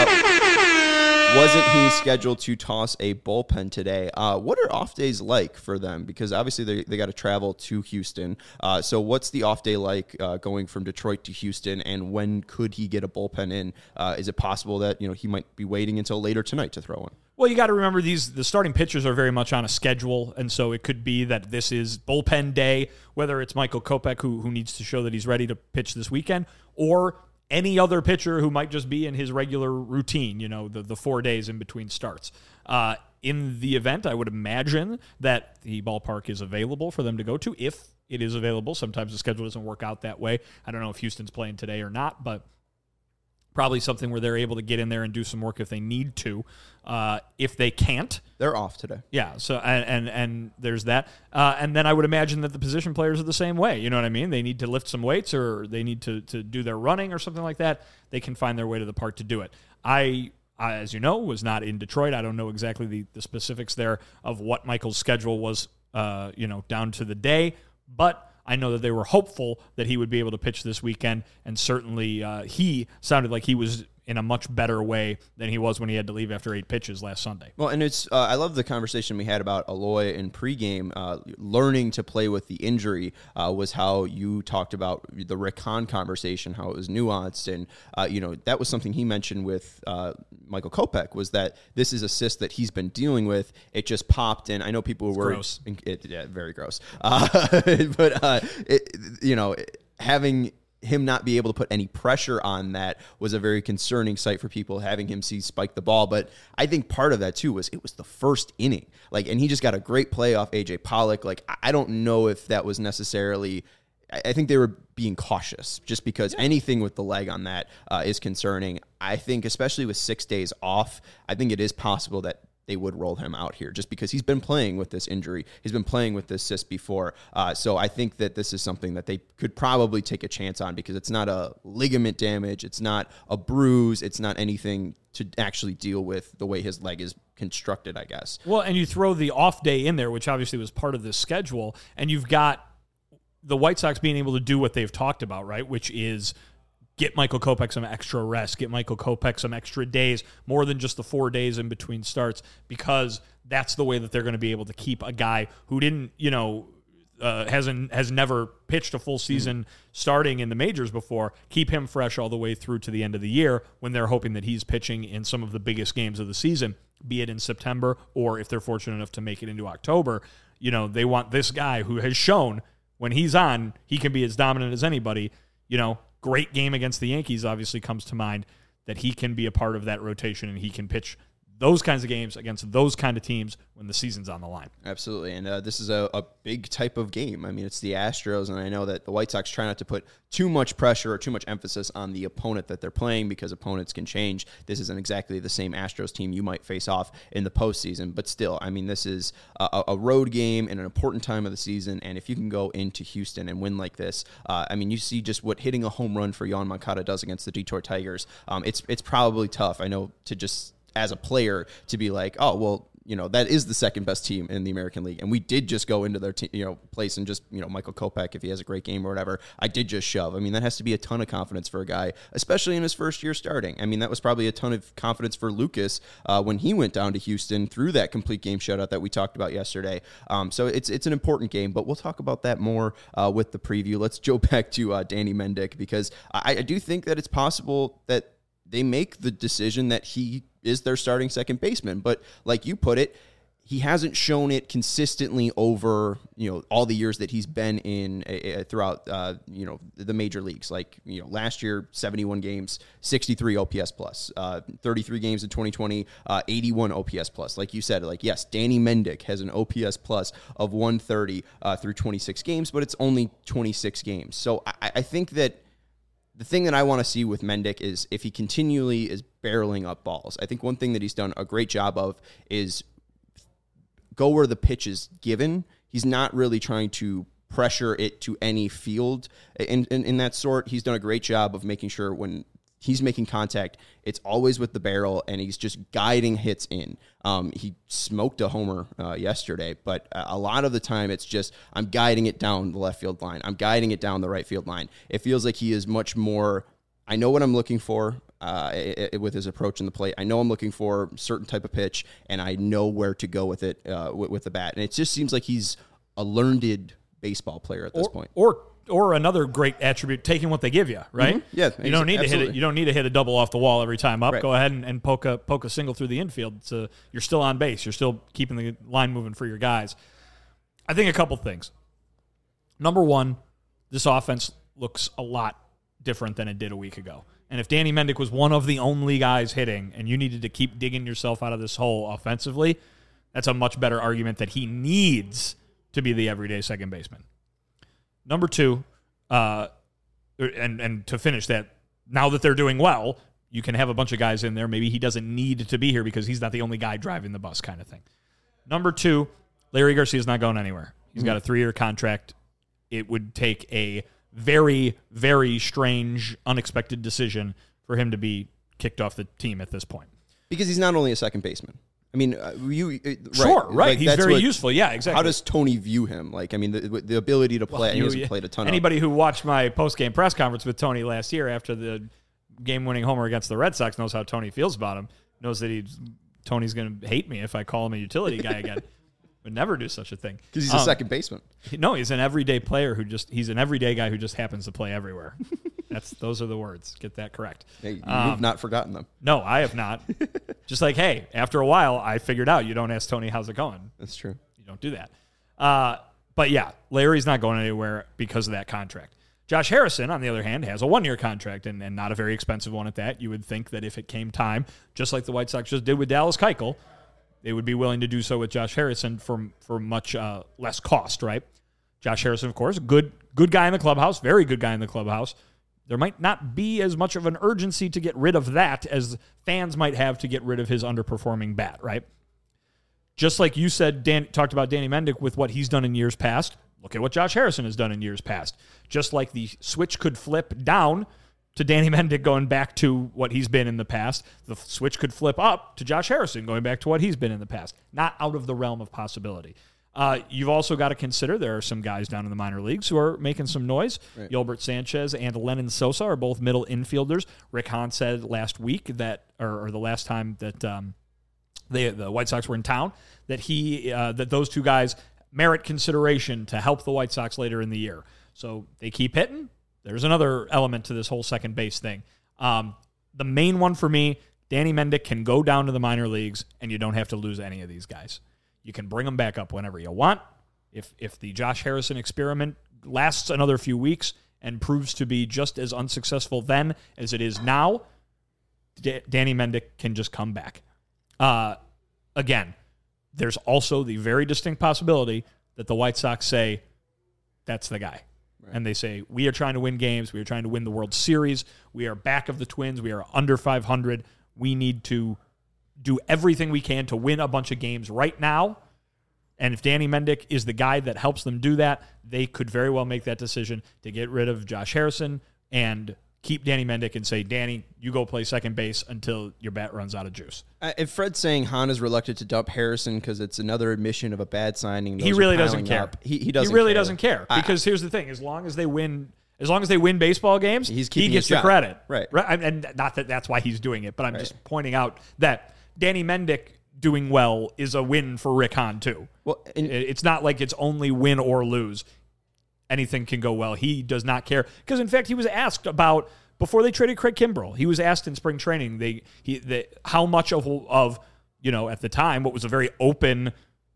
Uh, wasn't he scheduled to toss a bullpen today? Uh, what are off days like for them? Because obviously they, they got to travel to Houston. Uh, so what's the off day like uh, going from Detroit to Houston, and when could he get a bullpen in? Uh, is it possible that, you know, he might be waiting until later tonight to throw one? Well, you got to remember these the starting pitchers are very much on a schedule, and so it could be that this is bullpen day, whether it's Michael Kopech, who, who needs to show that he's ready to pitch this weekend, or any other pitcher who might just be in his regular routine, you know, the, the four days in between starts. Uh, in the event, I would imagine that the ballpark is available for them to go to, if it is available. Sometimes the schedule doesn't work out that way. I don't know if Houston's playing today or not, but probably something where they're able to get in there and do some work if they need to. Uh, if they can't, they're off today. Yeah. So and and, and there's that. Uh, and then I would imagine that the position players are the same way. You know what I mean? They need to lift some weights, or they need to to do their running or something like that. They can find their way to the park to do it. I, I as you know, was not in Detroit. I don't know exactly the, the specifics there of what Michael's schedule was. Uh, you know, down to the day, but I know that they were hopeful that he would be able to pitch this weekend, and certainly uh, he sounded like he was in a much better way than he was when he had to leave after eight pitches last Sunday. Well, and it's uh, I love the conversation we had about Eloy in pregame. Uh, learning to play with the injury uh, was how you talked about the Rick Hahn conversation, how it was nuanced, and uh, you know, that was something he mentioned with uh, Michael Kopech, was that this is a cyst that he's been dealing with. It just popped, and I know people were gross. It, yeah, very gross. Uh, but uh, it, you know, having him not be able to put any pressure on that was a very concerning sight for people, having him see spike the ball. But I think part of that too was it was the first inning, like, and he just got a great play off A J Pollock. Like, I don't know if that was necessarily, I think they were being cautious, just because yeah. anything with the leg on that uh, is concerning. I think especially with six days off, I think it is possible that they would roll him out here, just because he's been playing with this injury. He's been playing with this cyst before. Uh, so I think that this is something that they could probably take a chance on, because it's not a ligament damage. It's not a bruise. It's not anything to actually deal with the way his leg is constructed, I guess. Well, and you throw the off day in there, which obviously was part of this schedule, and you've got the White Sox being able to do what they've talked about, right, which is get Michael Kopech some extra rest, get Michael Kopech some extra days, more than just the four days in between starts, because that's the way that they're going to be able to keep a guy who didn't, you know, uh, hasn't has never pitched a full season mm. starting in the majors before, keep him fresh all the way through to the end of the year, when they're hoping that he's pitching in some of the biggest games of the season, be it in September, or if they're fortunate enough to make it into October. You know, they want this guy who has shown when he's on, he can be as dominant as anybody. You know, great game against the Yankees obviously comes to mind, that he can be a part of that rotation and he can pitch those kinds of games against those kind of teams when the season's on the line. Absolutely, and uh, this is a, a big type of game. I mean, it's the Astros, and I know that the White Sox try not to put too much pressure or too much emphasis on the opponent that they're playing because opponents can change. This isn't exactly the same Astros team you might face off in the postseason, but still, I mean, this is a, a road game in an important time of the season, and if you can go into Houston and win like this, uh, I mean, you see just what hitting a home run for Yoan Moncada does against the Detroit Tigers. Um, it's it's probably tough, I know, to just as a player to be like, oh, well, you know, that is the second best team in the American League. And we did just go into their te- you know, place and just, you know, Michael Kopech, if he has a great game or whatever, I did just shove. I mean, that has to be a ton of confidence for a guy, especially in his first year starting. I mean, that was probably a ton of confidence for Lucas uh, when he went down to Houston through that complete game shutout that we talked about yesterday. Um, so it's it's an important game, but we'll talk about that more uh, with the preview. Let's go back to uh, Danny Mendick, because I, I do think that it's possible that they make the decision that he is their starting second baseman. But like you put it, he hasn't shown it consistently over, you know, all the years that he's been in uh, throughout, uh, you know, the major leagues. Like, you know, last year, seventy-one games, sixty-three O P S plus, uh, thirty-three games in twenty twenty, uh, eighty-one O P S plus. Like you said, like, yes, Danny Mendick has an O P S plus of one thirty uh, through twenty-six games, but it's only twenty-six games. So I, I think that the thing that I want to see with Mendick is if he continually is barreling up balls. I think one thing that he's done a great job of is go where the pitch is given. He's not really trying to pressure it to any field in, in, in that sort. He's done a great job of making sure when he's making contact, it's always with the barrel, and he's just guiding hits in. Um, he smoked a homer uh, yesterday, but a lot of the time it's just, I'm guiding it down the left field line. I'm guiding it down the right field line. It feels like he is much more, I know what I'm looking for uh, it, it, with his approach in the plate. I know I'm looking for a certain type of pitch, and I know where to go with it uh, with, with the bat. And it just seems like he's a learned baseball player at this or, point. Or Or another great attribute, taking what they give you, right? Mm-hmm. Yeah, you don't need absolutely. to hit it. You don't need to hit a double off the wall every time up. Right. Go ahead and, and poke a poke a single through the infield. So you're still on base. You're still keeping the line moving for your guys. I think a couple things. Number one, this offense looks a lot different than it did a week ago. And if Danny Mendick was one of the only guys hitting, and you needed to keep digging yourself out of this hole offensively, that's a much better argument that he needs to be the everyday second baseman. Number two, uh, and and to finish that, now that they're doing well, you can have a bunch of guys in there. Maybe he doesn't need to be here because he's not the only guy driving the bus kind of thing. Number two, Larry Garcia's not going anywhere. He's mm-hmm. got a three-year contract. It would take a very, very strange, unexpected decision for him to be kicked off the team at this point. Because he's not only a second baseman. I mean, uh, you uh, right, sure, right? Like, He's that's very what, useful. Yeah, exactly. How does Tony view him? Like, I mean, the, the ability to play. Well, he you, hasn't played a ton. Anybody of who watched my post-game press conference with Tony last year after the game-winning homer against the Red Sox knows how Tony feels about him. Knows that he's Tony's going to hate me if I call him a utility guy again. Would never do such a thing because he's um, a second baseman. No, he's an everyday player who just he's an everyday guy who just happens to play everywhere. That's those are the words. Get that correct. Hey, you've um, not forgotten them. No, I have not. Just like, hey, after a while, I figured out you don't ask Tony how's it going. That's true. You don't do that. Uh, but yeah, Larry's not going anywhere because of that contract. Josh Harrison, on the other hand, has a one-year contract and, and not a very expensive one at that. You would think that if it came time, just like the White Sox just did with Dallas Keuchel, they would be willing to do so with Josh Harrison for for much uh, less cost, right? Josh Harrison, of course, good good guy in the clubhouse, very good guy in the clubhouse. There might not be as much of an urgency to get rid of that as fans might have to get rid of his underperforming bat, right? Just like you said, Dan talked about Danny Mendick with what he's done in years past. Look at what Josh Harrison has done in years past. Just like the switch could flip down to Danny Mendick going back to what he's been in the past, the switch could flip up to Josh Harrison going back to what he's been in the past. Not out of the realm of possibility. Uh, you've also got to consider there are some guys down in the minor leagues who are making some noise. Right. Gilbert Sanchez and Lennon Sosa are both middle infielders. Rick Hahn said last week that, or, or the last time that um, they, the White Sox were in town, that he uh, that those two guys merit consideration to help the White Sox later in the year. So they keep hitting. There's another element to this whole second base thing. Um, the main one for me, Danny Mendick can go down to the minor leagues, and you don't have to lose any of these guys. You can bring them back up whenever you want. If if the Josh Harrison experiment lasts another few weeks and proves to be just as unsuccessful then as it is now, D- Danny Mendick can just come back. Uh, again, there's also the very distinct possibility that the White Sox say, that's the guy. Right. And they say, we are trying to win games. We are trying to win the World Series. We are back of the Twins. We are under five hundred. We need to do everything we can to win a bunch of games right now. And if Danny Mendick is the guy that helps them do that, they could very well make that decision to get rid of Josh Harrison and keep Danny Mendick and say, Danny, you go play second base until your bat runs out of juice. Uh, if Fred's saying Hahn is reluctant to dump Harrison because it's another admission of a bad signing, he really doesn't care. Up, he, he doesn't. He really care. doesn't care because I, here's the thing: as long as they win, as long as they win baseball games, he's he gets the job. credit. Right. Right. And not that that's why he's doing it, but I'm right. just pointing out that Danny Mendick doing well is a win for Rick Hahn too. Well, and, it's not like it's only win or lose. Anything can go well. He does not care because, in fact, he was asked about. Before they traded Craig Kimbrell, he was asked in spring training they he the, how much of of you know at the time what was a very open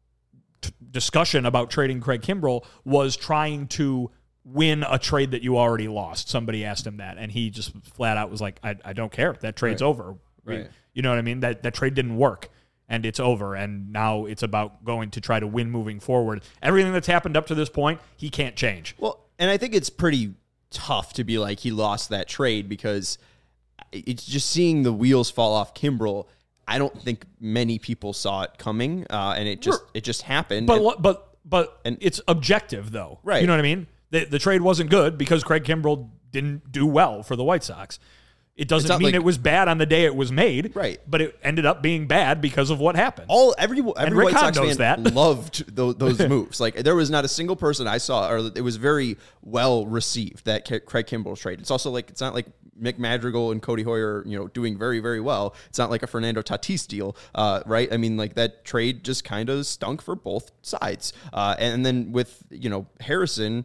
t- discussion about trading Craig Kimbrell was trying to win a trade that you already lost. Somebody asked him that, and he just flat out was like, "I, I don't care. That trade's right. over. Right. We, you know what I mean? That that trade didn't work, and it's over. And now it's about going to try to win moving forward. Everything that's happened up to this point, he can't change. Well, and I think it's pretty tough to be like he lost that trade because it's just seeing the wheels fall off Kimbrell. I don't think many people saw it coming, uh, and it just it just happened. But and, but but and, it's objective though, right? You know what I mean? The the trade wasn't good because Craig Kimbrell didn't do well for the White Sox. It doesn't mean like, it was bad on the day it was made, right? But it ended up being bad because of what happened. All every every White Sox fan that. loved those, those moves. Like there was not a single person I saw, or it was very well received that Craig Kimbrell trade. It's also like it's not like Mick Madrigal and Cody Hoyer, you know, doing very very well. It's not like a Fernando Tatis deal, uh, right? I mean, like that trade just kind of stunk for both sides. Uh, and then with you know Harrison,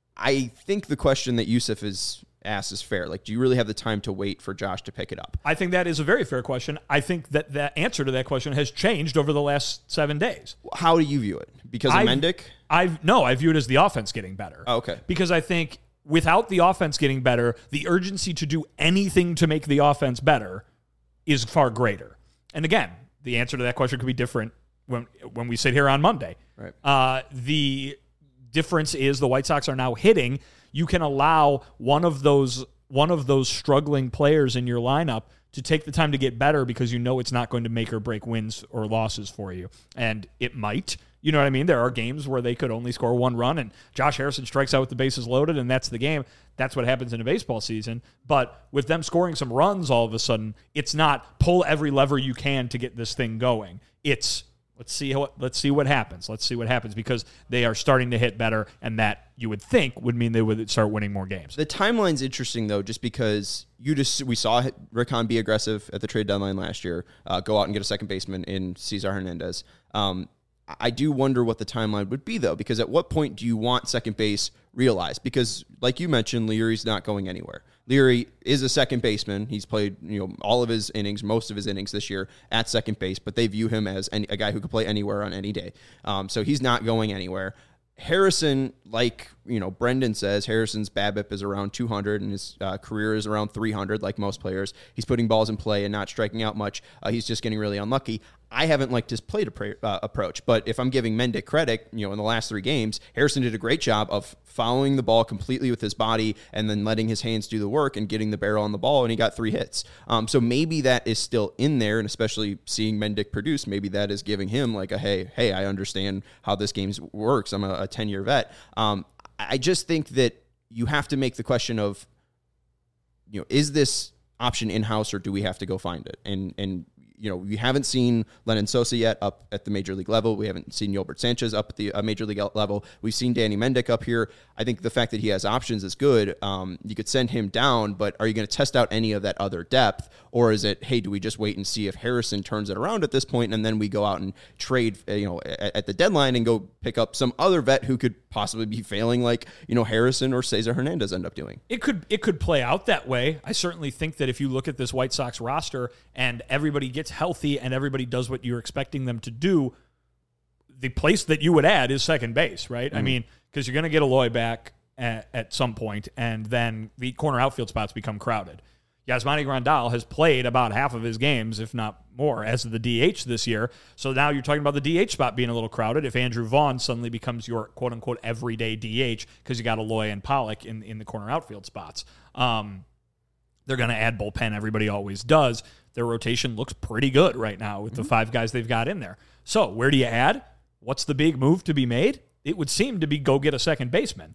I think the question that Yusuf is asked is fair. Like, do you really have the time to wait for Josh to pick it up? I think that is a very fair question. I think that the answer to that question has changed over the last seven days. How do you view it? Because of I've, Mendick? I've no, I view it as the offense getting better. Oh, okay. Because I think without the offense getting better, the urgency to do anything to make the offense better is far greater. And again, the answer to that question could be different when when we sit here on Monday. Right. Uh, the difference is the White Sox are now hitting. You can allow one of those one of those struggling players in your lineup to take the time to get better because you know it's not going to make or break wins or losses for you. And it might. You know what I mean? There are games where they could only score one run and Josh Harrison strikes out with the bases loaded and that's the game. That's what happens in a baseball season. But with them scoring some runs all of a sudden, it's not pull every lever you can to get this thing going. It's Let's see how. Let's see what happens. Let's see what happens because they are starting to hit better, and that you would think would mean they would start winning more games. The timeline's interesting though, just because you just we saw Rick Hahn be aggressive at the trade deadline last year, uh, go out and get a second baseman in Cesar Hernandez. Um, I do wonder what the timeline would be though, because at what point do you want second base realized? Because like you mentioned, Leary's not going anywhere. Leary is a second baseman. He's played, you know, all of his innings, most of his innings this year at second base, but they view him as any, a guy who could play anywhere on any day. Um, so he's not going anywhere. Harrison, like, you know, Brendan says, Harrison's BABIP is around two hundred and his uh, career is around three hundred, like most players. He's putting balls in play and not striking out much. Uh, he's just getting really unlucky. I haven't liked his plate appra- uh, approach, but if I'm giving Mendick credit, you know, in the last three games, Harrison did a great job of following the ball completely with his body and then letting his hands do the work and getting the barrel on the ball, and he got three hits. Um, so maybe that is still in there, and especially seeing Mendick produce, maybe that is giving him like a, hey, hey, I understand how this game works. I'm a ten-year vet. Um, I just think that you have to make the question of, you know, is this option in-house or do we have to go find it? And, and, you know, we haven't seen Lennon Sosa yet up at the major league level. We haven't seen Yolbert Sanchez up at the uh, major league level. We've seen Danny Mendick up here. I think the fact that he has options is good. Um, you could send him down, but are you going to test out any of that other depth? Or is it, hey, do we just wait and see if Harrison turns it around at this point, and then we go out and trade, you know, at, at the deadline and go pick up some other vet who could possibly be failing like, you know, Harrison or Cesar Hernandez end up doing? It could it could play out that way. I certainly think that if you look at this White Sox roster and everybody gets healthy and everybody does what you're expecting them to do, the place that you would add is second base, right? Mm-hmm. I mean, because you're going to get Eloy back. at, at some point, and then the corner outfield spots become crowded. Yasmani Grandal has played about half of his games, if not more, as the D H this year. So now you're talking about the D H spot being a little crowded. If Andrew Vaughn suddenly becomes your quote-unquote everyday D H because you got Aloy and Pollock in, in the corner outfield spots, um, they're going to add bullpen. Everybody always does. Their rotation looks pretty good right now with mm-hmm. the five guys they've got in there. So where do you add? What's the big move to be made? It would seem to be go get a second baseman.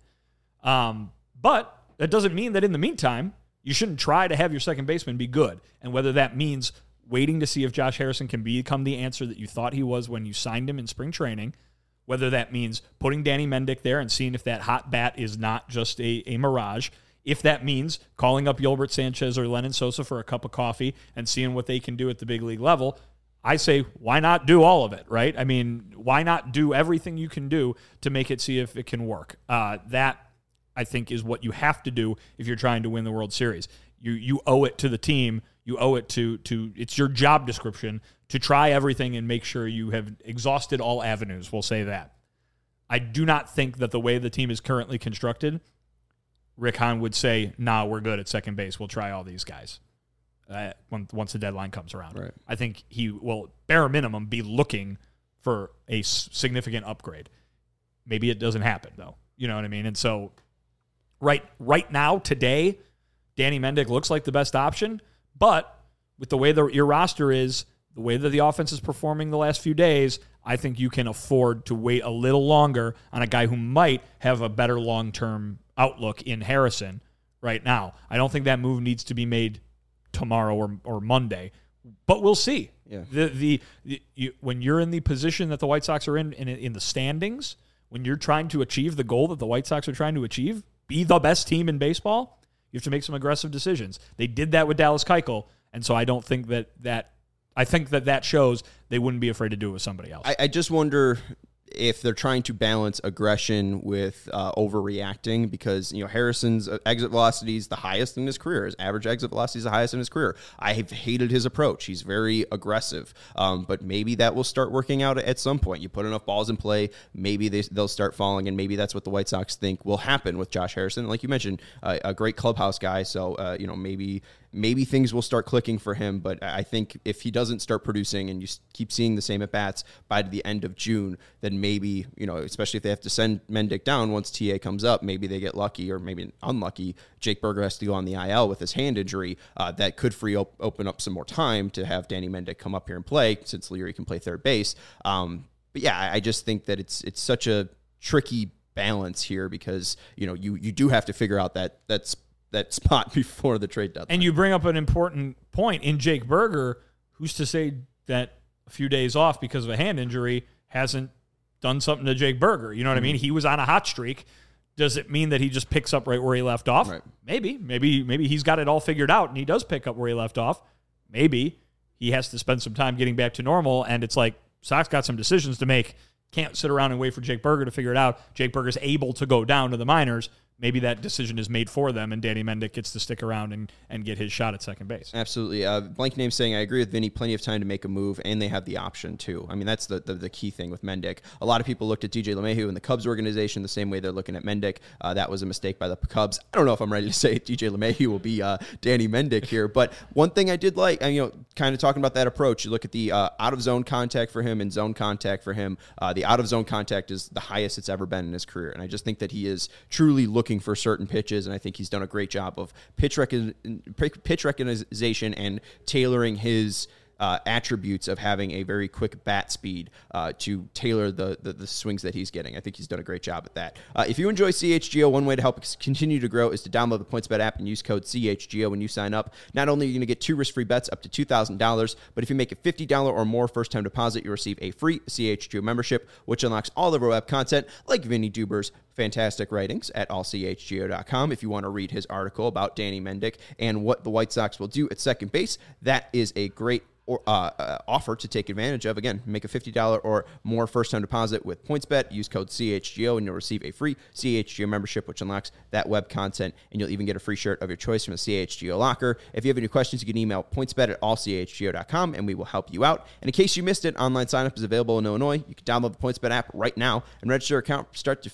Um, but that doesn't mean that in the meantime, you shouldn't try to have your second baseman be good. And whether that means waiting to see if Josh Harrison can become the answer that you thought he was when you signed him in spring training, whether that means putting Danny Mendick there and seeing if that hot bat is not just a, a mirage, if that means calling up Yolbert Sanchez or Lennon Sosa for a cup of coffee and seeing what they can do at the big league level, I say, why not do all of it, right? I mean, why not do everything you can do to make it see if it can work? Uh, that I think is what you have to do if you're trying to win the World Series. You you owe it to the team. You owe it to to it's your job description to try everything and make sure you have exhausted all avenues. We'll say that. I do not think that the way the team is currently constructed, Rick Hahn would say, "Nah, we're good at second base. We'll try all these guys." Uh, when, once the deadline comes around, right. I think he will, bare minimum, be looking for a s- significant upgrade. Maybe it doesn't happen though. You know what I mean? And so. Right right now, today, Danny Mendick looks like the best option, but with the way the, your roster is, the way that the offense is performing the last few days, I think you can afford to wait a little longer on a guy who might have a better long-term outlook in Harrison right now. I don't think that move needs to be made tomorrow or, or Monday, but we'll see. Yeah. The, the, the you, when you're in the position that the White Sox are in, in in the standings, when you're trying to achieve the goal that the White Sox are trying to achieve, be the best team in baseball, you have to make some aggressive decisions. They did that with Dallas Keuchel, and so I don't think that that I think that that shows they wouldn't be afraid to do it with somebody else. I, I just wonder if they're trying to balance aggression with uh, overreacting, because, you know, Harrison's exit velocity is the highest in his career. His average exit velocity is the highest in his career. I have hated his approach. He's very aggressive, um, but maybe that will start working out at some point. You put enough balls in play, maybe they, they'll start falling, and maybe that's what the White Sox think will happen with Josh Harrison. Like you mentioned, uh, a great clubhouse guy, so, uh, you know, maybe maybe things will start clicking for him, but I think if he doesn't start producing and you keep seeing the same at-bats by the end of June, then maybe, you know, especially if they have to send Mendick down once T A comes up, maybe they get lucky or maybe unlucky. Jake Burger has to go on the I L with his hand injury. Uh, that could free op- open up some more time to have Danny Mendick come up here and play, since Leary can play third base. Um, but yeah, I, I just think that it's it's such a tricky balance here, because, you know, you you do have to figure out that that's that spot before the trade deadline. And you bring up an important point in Jake Burger. Who's to say that a few days off because of a hand injury hasn't done something to Jake Burger? You know what mm-hmm. I mean? He was on a hot streak. Does it mean that he just picks up right where he left off? Right. Maybe. Maybe maybe he's got it all figured out and he does pick up where he left off. Maybe he has to spend some time getting back to normal, and it's like, Sox got some decisions to make. Can't sit around and wait for Jake Burger to figure it out. Jake Burger's able to go down to the minors. Maybe that decision is made for them, and Danny Mendick gets to stick around and, and get his shot at second base. Absolutely. Uh, Blank Name saying, I agree with Vinny, plenty of time to make a move, and they have the option, too. I mean, that's the, the, the key thing with Mendick. A lot of people looked at D J LeMahieu in the Cubs organization the same way they're looking at Mendick. Uh, that was a mistake by the Cubs. I don't know if I'm ready to say D J LeMahieu will be uh, Danny Mendick here, but one thing I did like, and, you know, kind of talking about that approach, you look at the uh, out-of-zone contact for him and zone contact for him. Uh, the out-of-zone contact is the highest it's ever been in his career, and I just think that he is truly looking for certain pitches, and I think he's done a great job of pitch recon- pitch recognition and tailoring his uh, attributes of having a very quick bat speed uh, to tailor the, the the swings that he's getting. I think he's done a great job at that. Uh, if you enjoy C H G O, one way to help us continue to grow is to download the PointsBet app and use code C H G O when you sign up. Not only are you going to get two risk-free bets up to two thousand dollars, but if you make a fifty dollars or more first-time deposit, you receive a free C H G O membership, which unlocks all of our web content, like Vinny Duber's fantastic writings at all c h g o dot com. If you want to read his article about Danny Mendick and what the White Sox will do at second base, that is a great or uh, uh, offer to take advantage of. Again, make a fifty dollars or more first-time deposit with PointsBet. Use code C H G O, and you'll receive a free C H G O membership, which unlocks that web content, and you'll even get a free shirt of your choice from the C H G O locker. If you have any questions, you can email pointsbet at all c h g o dot com, and we will help you out. And in case you missed it, online sign-up is available in Illinois. You can download the PointsBet app right now and register your account from start to finish all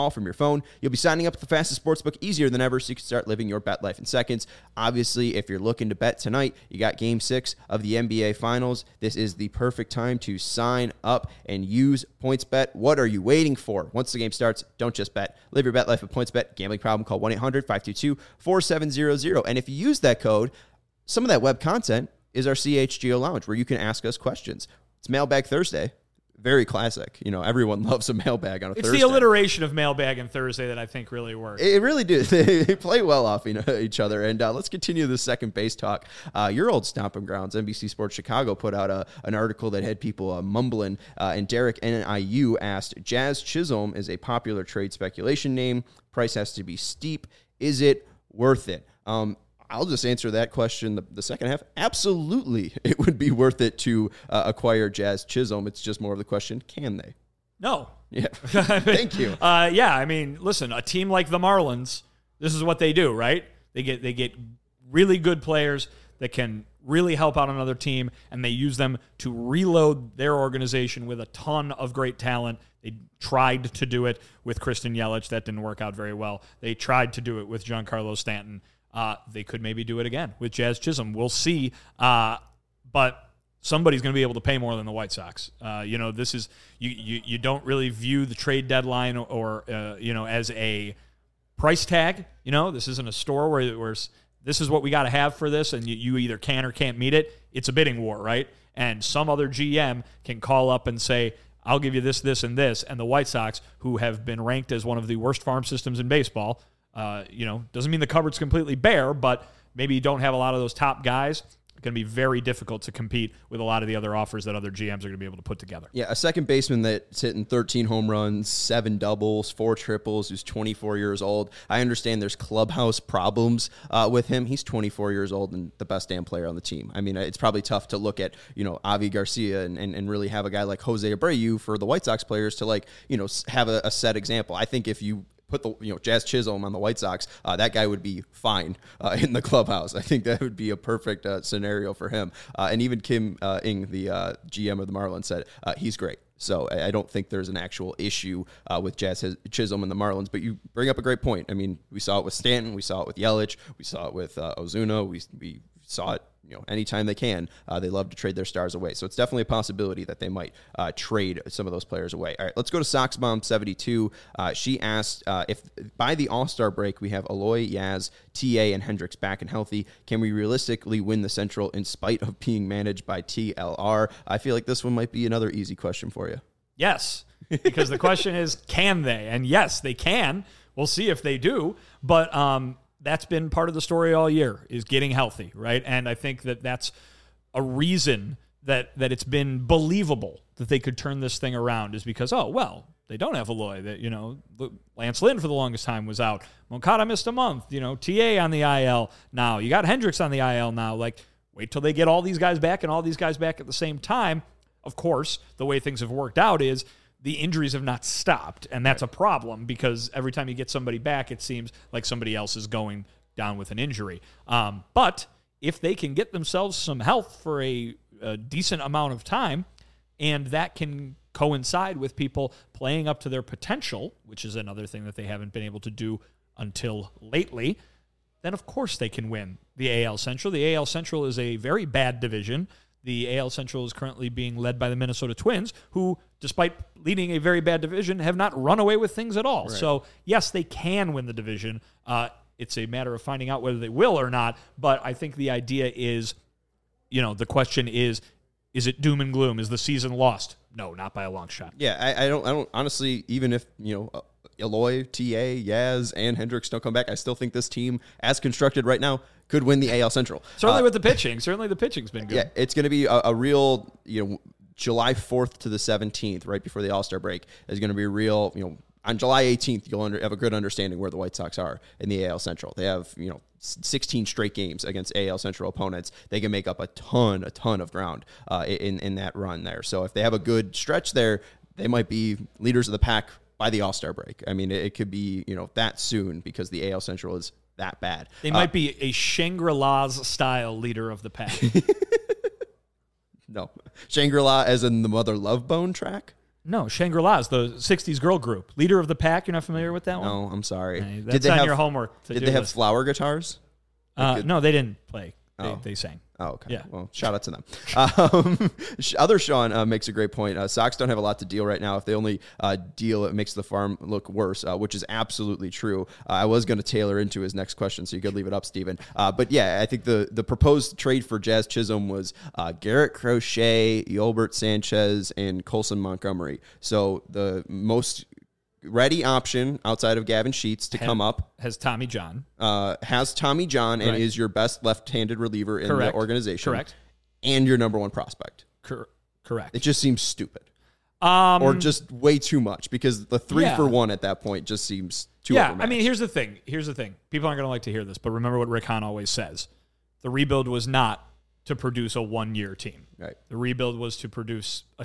all from your phone. You'll be signing up at the fastest sportsbook easier than ever, so you can start living your bet life in seconds. Obviously, if you're looking to bet tonight, you got game six of the N B A Finals. This is the perfect time to sign up and use PointsBet. What are you waiting for? Once the game starts, don't just bet. Live your bet life with PointsBet. Gambling problem, call one eight hundred five two two four seven zero zero. And if you use that code, some of that web content is our C H G O Lounge, where you can ask us questions. It's Mailbag Thursday. Very classic. You know, everyone loves a mailbag on a it's Thursday. It's the alliteration of mailbag and Thursday that I think really works. It really do. They play well off you know, each other. And uh, let's continue the second base talk. Uh, your old stomping grounds, N B C Sports Chicago, put out a, an article that had people uh, mumbling. Uh, and Derek N I U asked, Jazz Chisholm is a popular trade speculation name. Price has to be steep. Is it worth it? Um, I'll just answer that question the, the second half. Absolutely, it would be worth it to uh, acquire Jazz Chisholm. It's just more of the question, can they? No. Yeah. Thank you. Uh, yeah, I mean, listen, a team like the Marlins, this is what they do, right? They get they get really good players that can really help out another team, and they use them to reload their organization with a ton of great talent. They tried to do it with Christian Yelich. That didn't work out very well. They tried to do it with Giancarlo Stanton. Uh, they could maybe do it again with Jazz Chisholm. We'll see. Uh, but somebody's going to be able to pay more than the White Sox. Uh, you know, this is you, you. You don't really view the trade deadline or uh, you know as a price tag. You know, this isn't a store where where this is what we got to have for this, and you, you either can or can't meet it. It's a bidding war, right? And some other G M can call up and say, I'll give you this, this, and this. And the White Sox, who have been ranked as one of the worst farm systems in baseball, uh, you know, doesn't mean the cupboard's completely bare, but maybe you don't have a lot of those top guys. It's going to be very difficult to compete with a lot of the other offers that other G Ms are going to be able to put together. Yeah, a second baseman that's hitting thirteen home runs, seven doubles, four triples, who's twenty-four years old. I understand there's clubhouse problems uh, with him. He's twenty-four years old and the best damn player on the team. I mean, it's probably tough to look at, you know, Avi Garcia and, and, and really have a guy like Jose Abreu for the White Sox players to, like, you know, have a, a set example. I think if you put the you know Jazz Chisholm on the White Sox, uh, that guy would be fine uh, in the clubhouse. I think that would be a perfect uh, scenario for him. Uh, and even Kim uh, Ng, the uh, G M of the Marlins, said uh, he's great. So I don't think there's an actual issue uh, with Jazz Chisholm and the Marlins. But you bring up a great point. I mean, we saw it with Stanton, we saw it with Yelich, we saw it with uh, Ozuna, we we saw it. You know, anytime they can, uh, they love to trade their stars away. So it's definitely a possibility that they might uh, trade some of those players away. All right, let's go to Soxbomb seventy-two. Uh, she asked uh, if by the All-Star break we have Eloy, Yaz, T A, and Hendricks back and healthy, can we realistically win the Central in spite of being managed by T L R? I feel like this one might be another easy question for you. Yes, because the question is, can they? And yes, they can. We'll see if they do. But um, that's been part of the story all year, is getting healthy, right? And I think that that's a reason that that it's been believable that they could turn this thing around, is because, oh, well, they don't have Eloy. That, you know, Lance Lynn for the longest time was out. Moncada missed a month. You know, T A on the I L now. You got Hendricks on the I L now. Like, wait till they get all these guys back and all these guys back at the same time. Of course, the way things have worked out is the injuries have not stopped, and that's a problem because every time you get somebody back, it seems like somebody else is going down with an injury. Um, but if they can get themselves some health for a, a decent amount of time, and that can coincide with people playing up to their potential, which is another thing that they haven't been able to do until lately, then of course they can win the A L Central. The A L Central is a very bad division. The A L Central is currently being led by the Minnesota Twins, who, despite leading a very bad division, have not run away with things at all. Right. So, yes, they can win the division. Uh, it's a matter of finding out whether they will or not. But I think the idea is, you know, the question is, is it doom and gloom? Is the season lost? No, not by a long shot. Yeah, I, I don't. I don't honestly. Even if you know. Uh, Eloy, T A, Yaz, and Hendricks don't come back, I still think this team, as constructed right now, could win the A L Central. Certainly uh, with the pitching. Certainly the pitching's been good. Yeah, it's going to be a, a real, you know, July fourth to the seventeenth, right before the All-Star break, is going to be a real, you know, on July eighteenth, you'll under, have a good understanding where the White Sox are in the A L Central. They have, you know, sixteen straight games against A L Central opponents. They can make up a ton, a ton of ground uh, in, in that run there. So if they have a good stretch there, they might be leaders of the pack by the All-Star break. I mean, it, it could be, you know, that soon because the A L Central is that bad. They might uh, be a Shangri-La's style leader of the pack. No. Shangri-La as in the Mother Love Bone track? No, Shangri-La's, the sixties girl group. Leader of the Pack. You're not familiar with that one? No, I'm sorry. Hey, that's did they on have your homework. Did they have list. flower guitars? Uh, Good. no, they didn't play. They, Oh. they sang. Oh, okay. Yeah. Well, shout out to them. Um, other Sean uh, makes a great point. Uh, Sox don't have a lot to deal right now. If they only uh, deal, it makes the farm look worse, uh, which is absolutely true. Uh, I was going to tailor into his next question, so you could leave it up, Steven. Uh, but yeah, I think the the proposed trade for Jazz Chisholm was uh, Garrett Crochet, Yolbert Sanchez, and Colson Montgomery. So the most ready option outside of Gavin Sheets to Has- come up Has Tommy John. uh, has Tommy John and Right. is your best left-handed reliever in Correct. the organization. Correct. And your number one prospect. Cor- correct. It just seems stupid. Um, Or just way too much because the three Yeah. for one at that point just seems too yeah, overmatched. I mean, here's the thing. Here's the thing. People aren't going to like to hear this, but remember what Rick Hahn always says. The rebuild was not to produce a one-year team. Right. The rebuild was to produce a,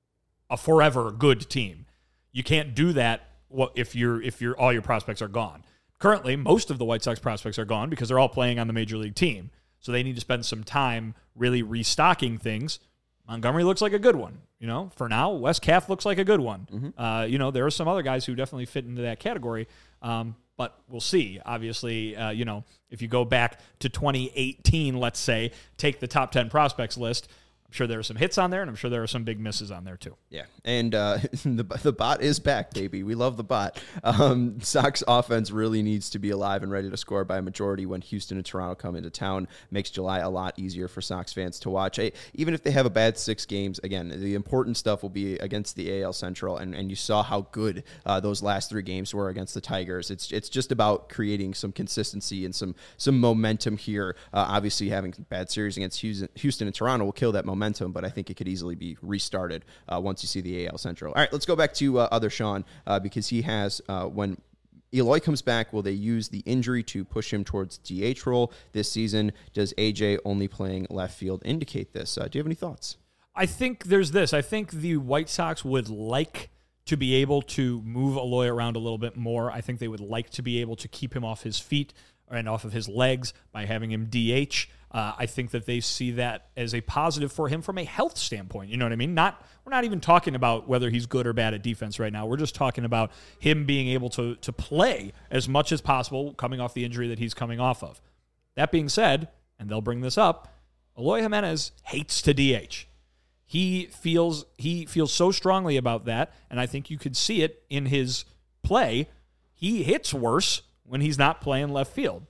a forever good team. You can't do that what if you're if you're all your prospects are gone. Currently, most of the White Sox prospects are gone because they're all playing on the major league team. So they need to spend some time really restocking things. Montgomery looks like a good one. You know, for now, Wes Calf looks like a good one. Mm-hmm. Uh, you know, there are some other guys who definitely fit into that category. Um, but we'll see. Obviously, uh, you know, if you go back to twenty eighteen, let's say, take the top ten prospects list, I'm sure there are some hits on there, and I'm sure there are some big misses on there too. Yeah, and uh, the the bot is back, baby. We love the bot. Um, Sox offense really needs to be alive and ready to score by a majority when Houston and Toronto come into town. Makes July a lot easier for Sox fans to watch. Hey, even if they have a bad six games, again, the important stuff will be against the A L Central, and, and you saw how good uh, those last three games were against the Tigers. It's it's just about creating some consistency and some some momentum here. Uh, obviously, having bad series against Houston, Houston and Toronto will kill that momentum. Momentum, but I think it could easily be restarted uh, once you see the A L Central. All right, let's go back to uh, other Sean uh, because he has, uh, when Eloy comes back, will they use the injury to push him towards D H role this season? Does A J only playing left field indicate this? Uh, do you have any thoughts? I think there's this. I think the White Sox would like to be able to move Eloy around a little bit more. I think they would like to be able to keep him off his feet and off of his legs by having him D H. Uh, I think that they see that as a positive for him from a health standpoint. You know what I mean? Not we're not even talking about whether he's good or bad at defense right now. We're just talking about him being able to to play as much as possible coming off the injury that he's coming off of. That being said, and they'll bring this up, Eloy Jimenez hates to D H. He feels he feels so strongly about that, and I think you could see it in his play. He hits worse when he's not playing left field.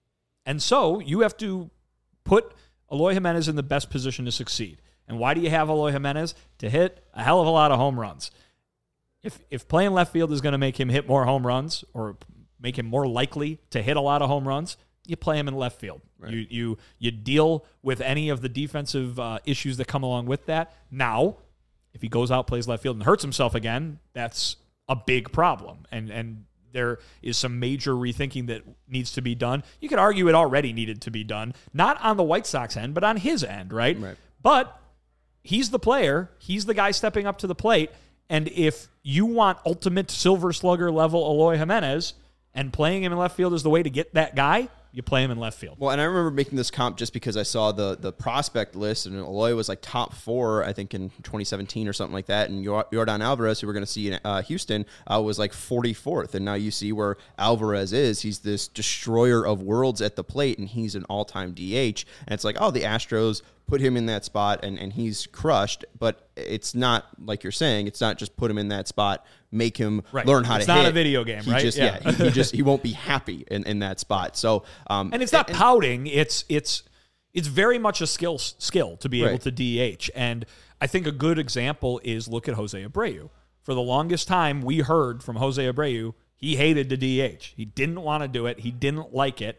And so you have to put Eloy Jimenez in the best position to succeed. And why do you have Eloy Jimenez? To hit a hell of a lot of home runs. If if playing left field is going to make him hit more home runs or make him more likely to hit a lot of home runs, you play him in left field. Right. You you you deal with any of the defensive uh, issues that come along with that. Now, if he goes out, plays left field, and hurts himself again, that's a big problem. And and there is some major rethinking that needs to be done. You could argue it already needed to be done, not on the White Sox end, but on his end, right? Right. But he's the player. He's the guy stepping up to the plate. And if you want ultimate Silver Slugger level Eloy Jimenez and playing him in left field is the way to get that guy, you play him in left field. Well, and I remember making this comp just because I saw the the prospect list, and Eloy was like top four, I think, in twenty seventeen or something like that. And Yordan Alvarez, who we're going to see in uh, Houston, uh, was like forty-fourth. And now you see where Alvarez is. He's this destroyer of worlds at the plate, and he's an all-time D H. And it's like, oh, the Astros put him in that spot, and, and he's crushed. But it's not, like you're saying, it's not just put him in that spot, make him right. learn how it's to hit. It's not a video game, he right? Just, yeah, yeah he, he just he won't be happy in, in that spot. So, um, and it's not and, pouting. It's it's it's very much a skill skill to be right. able to D H. And I think a good example is look at Jose Abreu. For the longest time, we heard from Jose Abreu he hated to D H. He didn't want to do it. He didn't like it.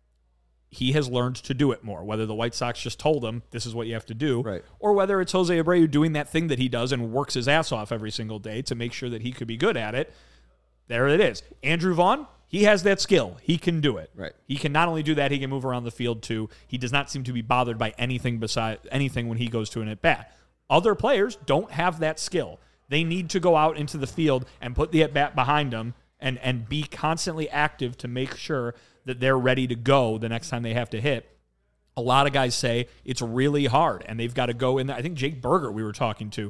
He has learned to do it more, whether the White Sox just told him this is what you have to do, right. or whether it's Jose Abreu doing that thing that he does and works his ass off every single day to make sure that he could be good at it. There it is. Andrew Vaughn, he has that skill. He can do it. Right. He can not only do that, he can move around the field too. He does not seem to be bothered by anything beside anything when he goes to an at-bat. Other players don't have that skill. They need to go out into the field and put the at-bat behind them and, and be constantly active to make sure that they're ready to go the next time they have to hit. A lot of guys say it's really hard, and they've got to go in there. I think Jake Berger, we were talking to,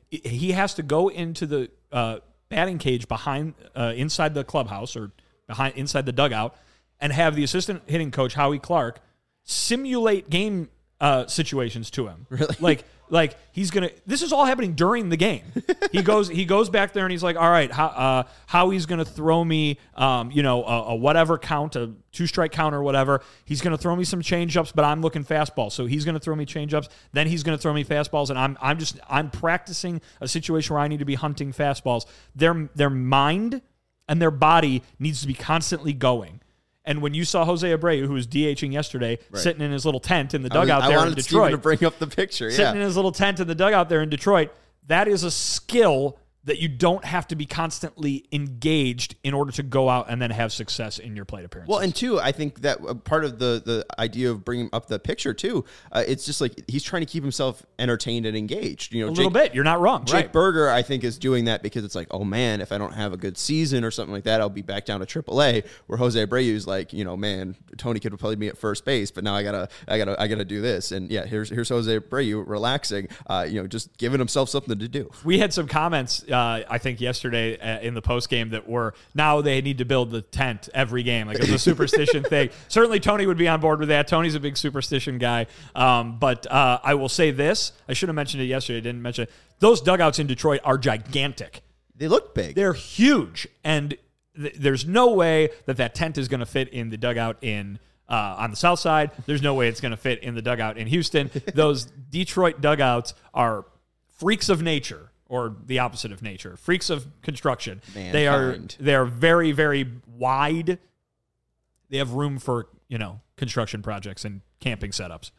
he has to go into the uh, batting cage behind, uh, inside the clubhouse or behind inside the dugout, and have the assistant hitting coach Howie Clark simulate game uh, situations to him. Really? Like, like he's gonna. This is all happening during the game. He goes, he goes back there and he's like, all right, how, uh, Howie's gonna throw me, um, you know, a, a whatever count, a two strike count or whatever. He's gonna throw me some change ups, but I'm looking fastball, so he's gonna throw me change ups. Then he's gonna throw me fastballs, and I'm, I'm just, I'm practicing a situation where I need to be hunting fastballs. Their, their mind and their body needs to be constantly going. And when you saw Jose Abreu, who was DHing yesterday, right. sitting in his little tent in the dugout I was, there I wanted in Detroit. Steven to bring up the picture. Sitting yeah. in his little tent in the dugout there in Detroit, that is a skill that you don't have to be constantly engaged in order to go out and then have success in your plate appearances. Well, and two, I think that part of the the idea of bringing up the picture too, uh, it's just like he's trying to keep himself entertained and engaged. You know, a Jake, little bit. You're not wrong. Jake right. Berger, I think, is doing that because it's like, oh man, if I don't have a good season or something like that, I'll be back down to triple A. Where Jose Abreu is like, you know, man, Tony could have played me at first base, but now I gotta, I gotta, I gotta do this. And yeah, here's here's Jose Abreu relaxing, uh, you know, just giving himself something to do. We had some comments, uh, I think, yesterday. Yesterday uh, in the post game that were now they need to build the tent every game, like it was a superstition thing. Certainly Tony would be on board with that. Tony's a big superstition guy. Um, but uh, I will say this: I should have mentioned it yesterday. I didn't mention it. Those dugouts in Detroit are gigantic. They look big. They're huge, and th- there's no way that that tent is going to fit in the dugout in. Uh, on the south side. There's no way it's going to fit in the dugout in Houston. Those Detroit dugouts are freaks of nature. Or the opposite of nature, freaks of construction. Mankind. They are they are very, very wide. They have room for, you know, construction projects and camping setups.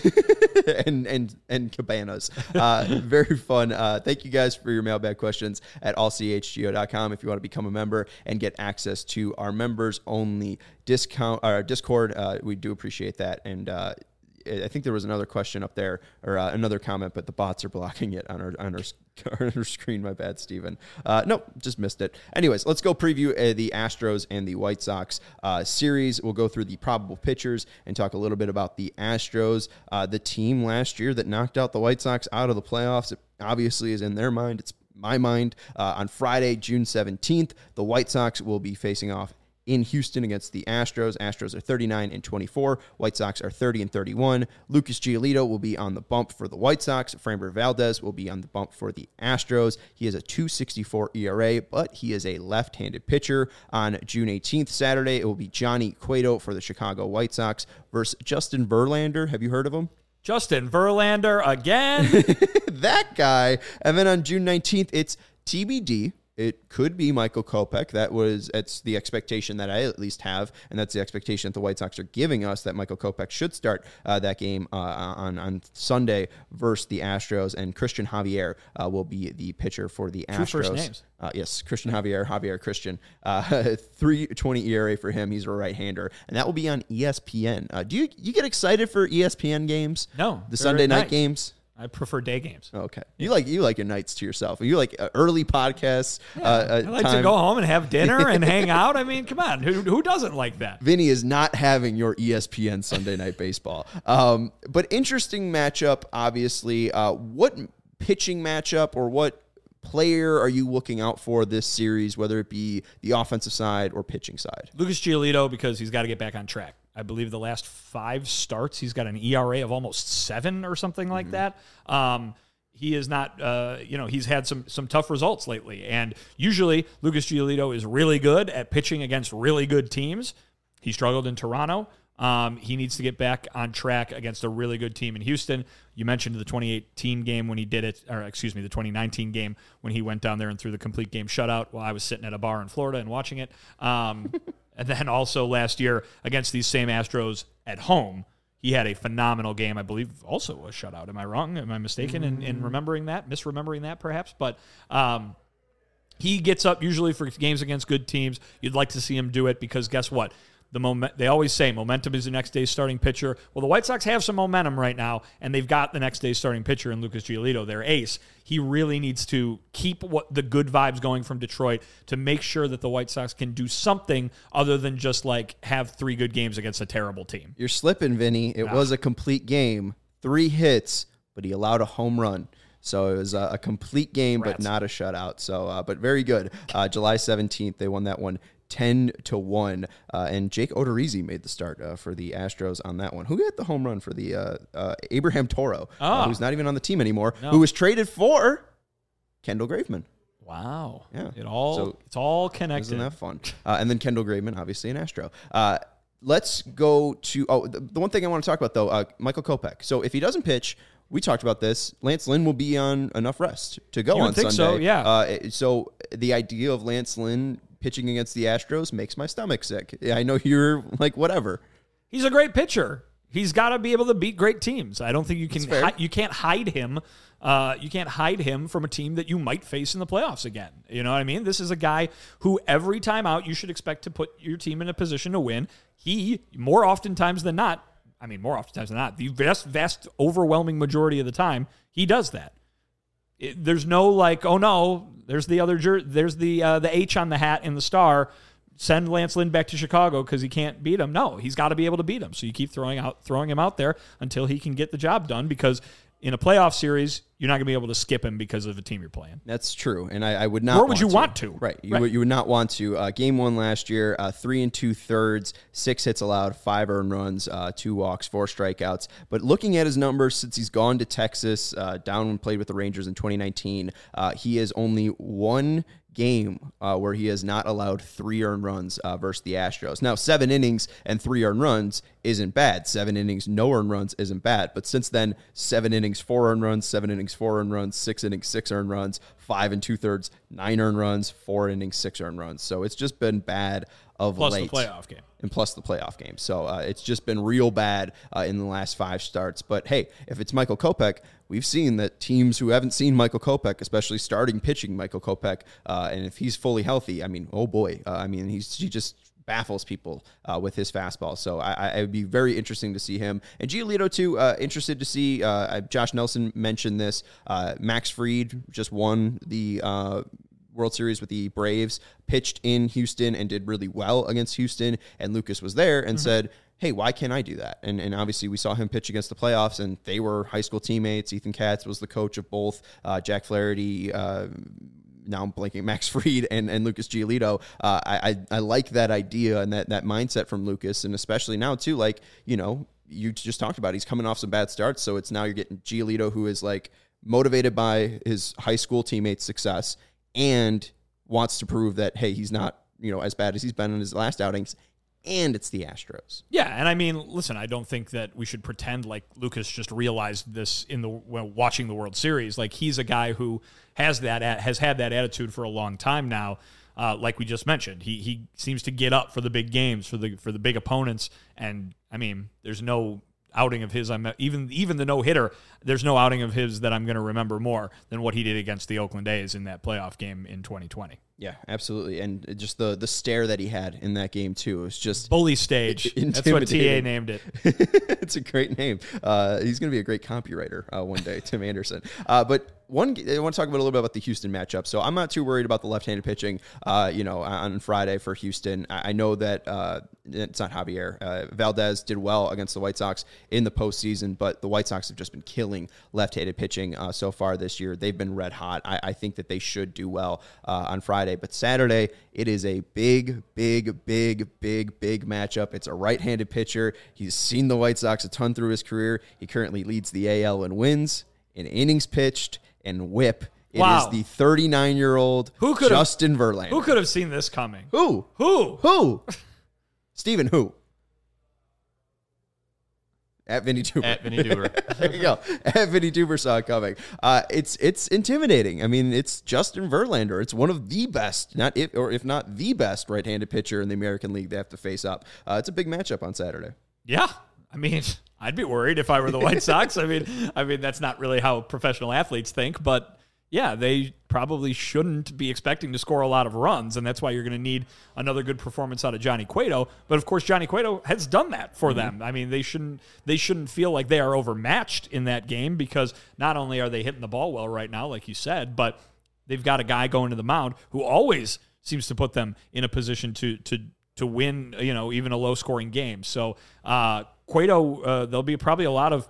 and and and cabanas. Uh, very fun. Uh, thank you guys for your mailbag questions at all c h g o dot com if you want to become a member and get access to our members only discount our Discord. Uh, we do appreciate that. And uh, I think there was another question up there or uh, another comment, but the bots are blocking it on our on our, on our screen. My bad, Steven. Uh, no, just missed it. Anyways, let's go preview uh, the Astros and the White Sox uh, series. We'll go through the probable pitchers and talk a little bit about the Astros. Uh, the team last year that knocked out the White Sox out of the playoffs, it obviously is in their mind. It's my mind. Uh, on Friday, June seventeenth, the White Sox will be facing off in Houston against the Astros. Astros are thirty-nine and twenty-four. White Sox are thirty and thirty-one. Lucas Giolito will be on the bump for the White Sox. Framber Valdez will be on the bump for the Astros. He has a two sixty-four E R A, but he is a left-handed pitcher. On June eighteenth, Saturday, it will be Johnny Cueto for the Chicago White Sox versus Justin Verlander. Have you heard of him? Justin Verlander again. That guy. And then on June nineteenth, it's T B D. It could be Michael Kopech. That was it's the expectation that I at least have, and that's the expectation that the White Sox are giving us, that Michael Kopech should start uh, that game uh, on, on Sunday versus the Astros, and Christian Javier uh, will be the pitcher for the Astros. Two first names. Uh, yes, Christian Javier, Javier Christian. Uh, three twenty E R A for him. He's a right-hander, and that will be on E S P N. Uh, do you you get excited for E S P N games? No. The Sunday night night. games? I prefer day games. Okay, you like you like your nights to yourself. You like uh, early podcasts. Yeah, uh, I like time. to go home and have dinner and hang out. I mean, come on, who, who doesn't like that? Vinny is not having your E S P N Sunday Night Baseball. Um, but interesting matchup, obviously. Uh, what pitching matchup or what player are you looking out for this series, whether it be the offensive side or pitching side? Lucas Giolito, because he's got to get back on track. I believe the last five starts, he's got an E R A of almost seven or something like mm-hmm. that. Um, he is not, uh, you know, he's had some some tough results lately. And usually Lucas Giolito is really good at pitching against really good teams. He struggled in Toronto. Um, he needs to get back on track against a really good team in Houston. You mentioned the twenty eighteen game when he did it, or excuse me, the twenty nineteen game when he went down there and threw the complete game shutout while I was sitting at a bar in Florida and watching it. Um, and then also last year against these same Astros at home, he had a phenomenal game. I believe also a shutout. Am I wrong? Am I mistaken in, in remembering that? Misremembering that perhaps? But um, he gets up usually for games against good teams. You'd like to see him do it because guess what? The moment they always say momentum is the next day's starting pitcher. Well, the White Sox have some momentum right now, and they've got the next day's starting pitcher in Lucas Giolito, their ace. He really needs to keep what the good vibes going from Detroit to make sure that the White Sox can do something other than just like have three good games against a terrible team. You're slipping, Vinny. It Ah. was a complete game, three hits, but he allowed a home run. So it was a, a complete game, Rats. but not a shutout. So, uh, but very good. Uh, July seventeenth, they won that one ten to one. Uh, and Jake Odorizzi made the start uh, for the Astros on that one. Who hit the home run for the uh, uh, Abraham Toro, Oh. uh, who's not even on the team anymore, No. who was traded for Kendall Graveman. Wow. Yeah. It all So- it's all connected. Isn't that fun? Uh, and then Kendall Graveman, obviously an Astro. Uh, let's go to oh the, the one thing I want to talk about though, uh, Michael Kopech. So if he doesn't pitch, we talked about this. Lance Lynn will be on enough rest to go You would on think Sunday. so, yeah. Uh, so the idea of Lance Lynn pitching against the Astros makes my stomach sick. I know you're like whatever. He's a great pitcher. He's got to be able to beat great teams. I don't think you can fair. hi- you can't hide him. Uh, you can't hide him from a team that you might face in the playoffs again. You know what I mean? This is a guy who every time out you should expect to put your team in a position to win. He more oftentimes than not, I mean more oftentimes than not, the vast vast overwhelming majority of the time he does that. It, there's no like, oh no, there's the other jer- there's the uh, the H on the hat in the star. Send Lance Lynn back to Chicago because he can't beat him. No, he's got to be able to beat him. So you keep throwing out throwing him out there until he can get the job done, because in a playoff series, you're not going to be able to skip him because of the team you're playing. That's true, and I, I would not. Nor would want you to. want to. Right, you, Right. Would, you would not want to. Uh, game one last year, uh, three and two thirds, six hits allowed, five earned runs, uh, two walks, four strikeouts. But looking at his numbers since he's gone to Texas, uh, down and played with the Rangers in twenty nineteen, uh, he has only one game uh, where he has not allowed three earned runs uh, versus the Astros. Now, seven innings and three earned runs isn't bad. Seven innings, no earned runs isn't bad. But since then, seven innings, four earned runs, seven innings, four earned runs, six innings, six earned runs, five and two thirds, nine earned runs, four innings, six earned runs. So it's just been bad of Plus late. the playoff game. And plus the playoff game. So uh, it's just been real bad uh, in the last five starts. But hey, if it's Michael Kopech, we've seen that teams who haven't seen Michael Kopech, especially starting pitching Michael Kopech, uh, and if he's fully healthy, I mean, oh boy, uh, I mean, he's he just baffles people uh, with his fastball. So I, I it would be very interesting to see him. And Giolito too, uh, interested to see. Uh, Josh Nelson mentioned this. Uh, Max Fried just won the Uh, World Series with the Braves, pitched in Houston and did really well against Houston. And Lucas was there and mm-hmm. said, hey, why can't I do that? And and obviously we saw him pitch against the playoffs, and they were high school teammates. Ethan Katz was the coach of both. Uh, Jack Flaherty, uh, now I'm blanking, Max Fried and, and Lucas Giolito. Uh, I, I I like that idea and that that mindset from Lucas, and especially now too, like, you know, you just talked about, he's coming off some bad starts. So it's now you're getting Giolito, who is like motivated by his high school teammates' success and wants to prove that, hey, he's not, you know, as bad as he's been in his last outings, and it's the Astros. Yeah, and I mean, listen, I don't think that we should pretend like Lucas just realized this in the well, watching the World Series. Like, he's a guy who has that has had that attitude for a long time now. Uh, like we just mentioned, he he seems to get up for the big games, for the for the big opponents, and I mean, there's no outing of his, I'm even even the no hitter. There's no outing of his that I'm going to remember more than what he did against the Oakland A's in that playoff game in twenty twenty. Yeah, absolutely, and just the the stare that he had in that game too. It was just bully stage. That's what T A named it. It's a great name. Uh, he's going to be a great copywriter uh, one day, Tim Anderson. Uh, but one, I want to talk about a little bit about the Houston matchup. So I'm not too worried about the left-handed pitching. Uh, you know, on Friday for Houston, I, I know that uh, it's not Javier uh, Valdez did well against the White Sox in the postseason, but the White Sox have just been killing left-handed pitching uh, so far this year. They've been red hot. I, I think that they should do well uh, on Friday. But Saturday, it is a big, big, big, big, big matchup. It's a right-handed pitcher. He's seen the White Sox a ton through his career. He currently leads the A L in wins, in innings pitched, and whip. It wow. is the thirty-nine-year-old who could Justin have, Verlander. Who could have seen this coming? Who? Who? Who? Steven, who? At Vinny Duber. At Vinny Duber. There you go. At Vinny Duber saw it coming. Uh, it's it's intimidating. I mean, it's Justin Verlander. It's one of the best, not if or if not the best right-handed pitcher in the American League they have to face up. Uh, it's a big matchup on Saturday. Yeah. I mean, I'd be worried if I were the White Sox. I mean, I mean that's not really how professional athletes think, but yeah, they probably shouldn't be expecting to score a lot of runs, and that's why you're going to need another good performance out of Johnny Cueto. But of course, Johnny Cueto has done that for mm-hmm. them. I mean, they shouldn't they shouldn't feel like they are overmatched in that game, because not only are they hitting the ball well right now, like you said, but they've got a guy going to the mound who always seems to put them in a position to to to win, you know, even a low scoring game. So uh, Cueto, uh, there'll be probably a lot of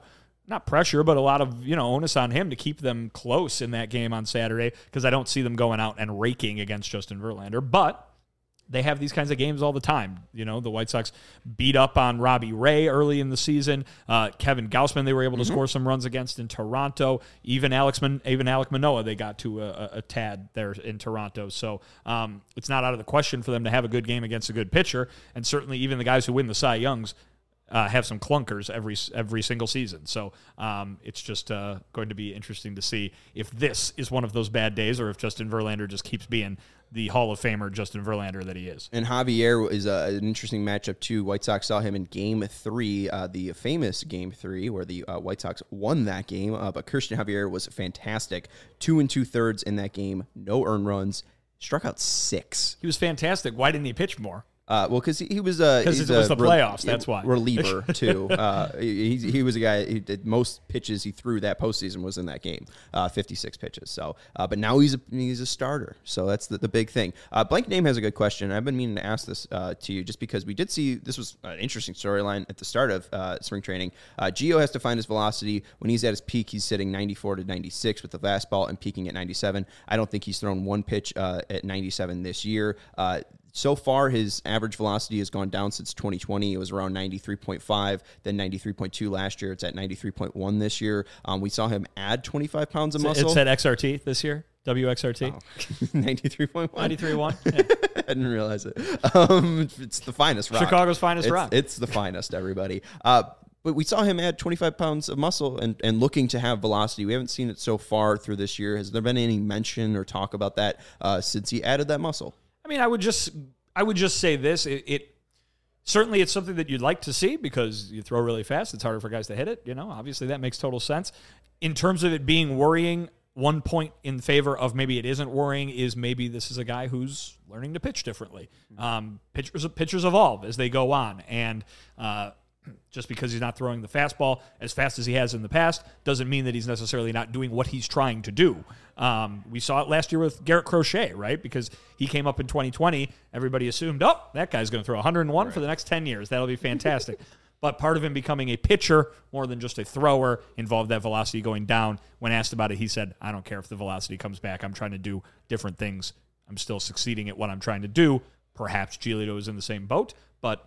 not pressure, but a lot of, you know, onus on him to keep them close in that game on Saturday, because I don't see them going out and raking against Justin Verlander. But they have these kinds of games all the time. You know, the White Sox beat up on Robbie Ray early in the season. Uh, Kevin Gausman, they were able to mm-hmm. score some runs against in Toronto. Even Alex, Man- even Alek Manoah, they got to a, a tad there in Toronto. So um, it's not out of the question for them to have a good game against a good pitcher. And certainly even the guys who win the Cy Youngs Uh, have some clunkers every every single season. So um, it's just uh, going to be interesting to see if this is one of those bad days or if Justin Verlander just keeps being the Hall of Famer Justin Verlander that he is. And Javier is a, an interesting matchup, too. White Sox saw him in Game three, uh, the famous Game three, where the uh, White Sox won that game. Uh, but Christian Javier was fantastic. Two and two-thirds in that game. No earned runs. Struck out six. He was fantastic. Why didn't he pitch more? Uh, well, because he, he was a because it was the re- playoffs. That's why reliever too. Uh, he he was a guy. He did most pitches he threw that postseason was in that game, uh, fifty-six pitches. So, uh, but now he's a he's a starter. So that's the, the big thing. Uh, Blank Name has a good question. I've been meaning to ask this uh, to you just because we did see this was an interesting storyline at the start of uh, spring training. Uh, Gio has to find his velocity when he's at his peak. He's sitting ninety-four to ninety-six with the fastball and peaking at ninety-seven. I don't think he's thrown one pitch uh, at ninety-seven this year. Uh, So far, his average velocity has gone down since twenty twenty. It was around ninety-three point five, then ninety-three point two last year. It's at ninety-three point one this year. Um, we saw him add twenty-five pounds of muscle. It's at X R T this year, W X R T. Oh. ninety-three point one. ninety-three point one. Yeah. I didn't realize it. Um, it's the finest rock. Chicago's finest it's, rock. It's the finest, everybody. Uh, But we saw him add twenty-five pounds of muscle and, and looking to have velocity. We haven't seen it so far through this year. Has there been any mention or talk about that uh, since he added that muscle? I mean, I would just... I would just say this, it, it certainly it's something that you'd like to see because you throw really fast. It's harder for guys to hit it. You know, obviously that makes total sense. In terms of it being worrying, one point in favor of maybe it isn't worrying is maybe this is a guy who's learning to pitch differently. Um, pitchers, pitchers evolve as they go on. And uh, just because he's not throwing the fastball as fast as he has in the past doesn't mean that he's necessarily not doing what he's trying to do. Um, we saw it last year with Garrett Crochet, right? Because he came up in twenty twenty. Everybody assumed, oh, that guy's going to throw one hundred one right. for the next ten years. That'll be fantastic. But part of him becoming a pitcher more than just a thrower involved that velocity going down. When asked about it, he said, I don't care if the velocity comes back. I'm trying to do different things. I'm still succeeding at what I'm trying to do. Perhaps Giolito is in the same boat, but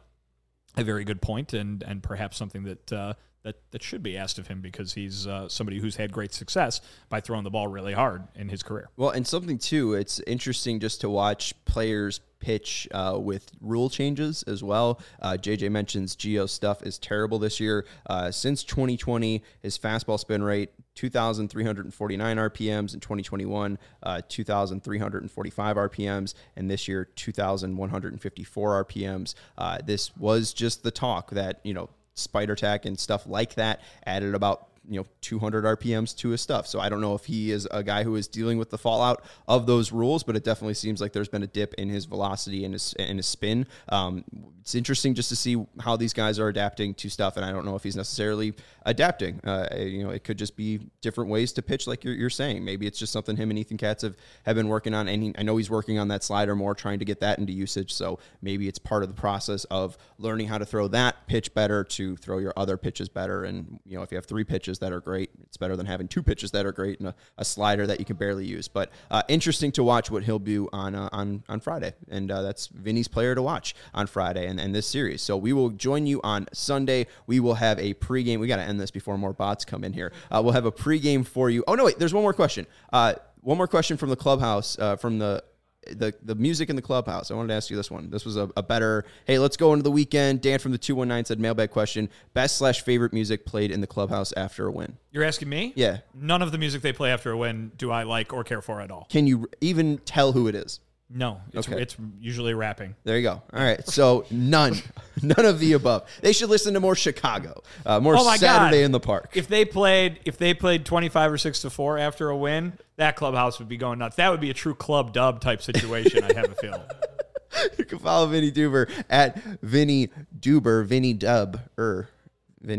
a very good point and and perhaps something that uh, that that should be asked of him because he's uh, somebody who's had great success by throwing the ball really hard in his career. Well, and something too, it's interesting just to watch players pitch uh, with rule changes as well. Uh, J J mentions Gio's stuff is terrible this year. Uh, since twenty twenty, his fastball spin rate two thousand three hundred forty-nine R P Ms, in twenty twenty-one, uh, two thousand three hundred forty-five R P Ms, and this year two thousand one hundred fifty-four R P Ms. Uh, this was just the talk that, you know, Spider Tack and stuff like that added about you know, two hundred R P Ms to his stuff. So I don't know if he is a guy who is dealing with the fallout of those rules, but it definitely seems like there's been a dip in his velocity and his, and his spin. Um, it's interesting just to see how these guys are adapting to stuff, and I don't know if he's necessarily adapting. Uh, you know, it could just be different ways to pitch, like you're, you're saying. Maybe it's just something him and Ethan Katz have, have been working on, and he, I know he's working on that slider more, trying to get that into usage, so maybe it's part of the process of learning how to throw that pitch better to throw your other pitches better, and, you know, if you have three pitches that are great, it's better than having two pitches that are great and a, a slider that you can barely use. But uh, interesting to watch what he'll do on uh, on on Friday, and uh, that's Vinny's player to watch on Friday and, and this series. So we will join you on Sunday. We will have a pregame. We got to end this before more bots come in here. Uh, we'll have a pregame for you. Oh no, wait, there's one more question. Uh, one more question from the clubhouse, uh, from the. The the music in the clubhouse. I wanted to ask you this one. This was a, a better, hey, let's go into the weekend. Dan from the two one nine said, mailbag question, best slash favorite music played in the clubhouse after a win. You're asking me? Yeah. None of the music they play after a win do I like or care for at all. Can you even tell who it is? No, it's, Okay. it's usually rapping. There you go. All right. So none, none of the above. They should listen to more Chicago, uh, more Oh my Saturday God. in the Park. If they played, if they played twenty-five or six to four after a win, that clubhouse would be going nuts. That would be a true club dub type situation. I have a feeling. You can follow Vinny Duber at Vinny Duber, Vinny Dub, er, Vinny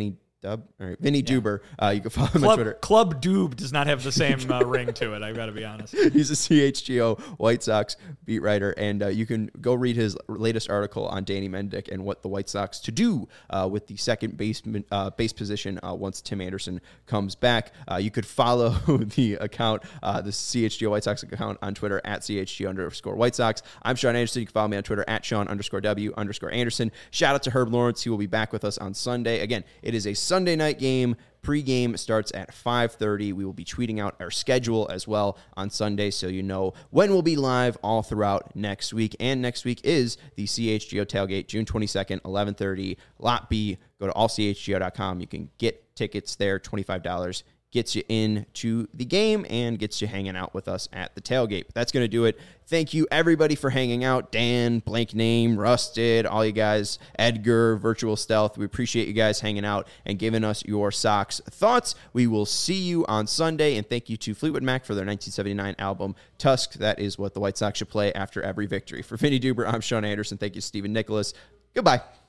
Dub? All right, Vinny Duber. Uh, you can follow him on Club, Twitter. Club Doob does not have the same uh, ring to it. I've got to be honest. He's a C H G O White Sox beat writer, and uh, you can go read his latest article on Danny Mendick and what the White Sox to do uh, with the second baseman, uh, base position uh, once Tim Anderson comes back. Uh, you could follow the account, uh, the C H G O White Sox account on Twitter at C H G O underscore White Sox. I'm Sean Anderson. You can follow me on Twitter at Sean underscore W underscore Anderson. Shout out to Herb Lawrence. He will be back with us on Sunday. Again, it is a Sunday night game. Pre-game starts at five thirty. We will be tweeting out our schedule as well on Sunday, so you know when we'll be live all throughout next week. And next week is the C H G O Tailgate, June twenty-second, eleven thirty, Lot B. Go to all c h g o dot com. You can get tickets there, twenty-five dollars. Gets you into the game and gets you hanging out with us at the tailgate. But that's going to do it. Thank you, everybody, for hanging out. Dan, Blank Name, Rusted, all you guys, Edgar, Virtual Stealth. We appreciate you guys hanging out and giving us your Sox thoughts. We will see you on Sunday. And thank you to Fleetwood Mac for their nineteen seventy-nine album, Tusk. That is what the White Sox should play after every victory. For Vinny Duber, I'm Sean Anderson. Thank you, Stephen Nicholas. Goodbye.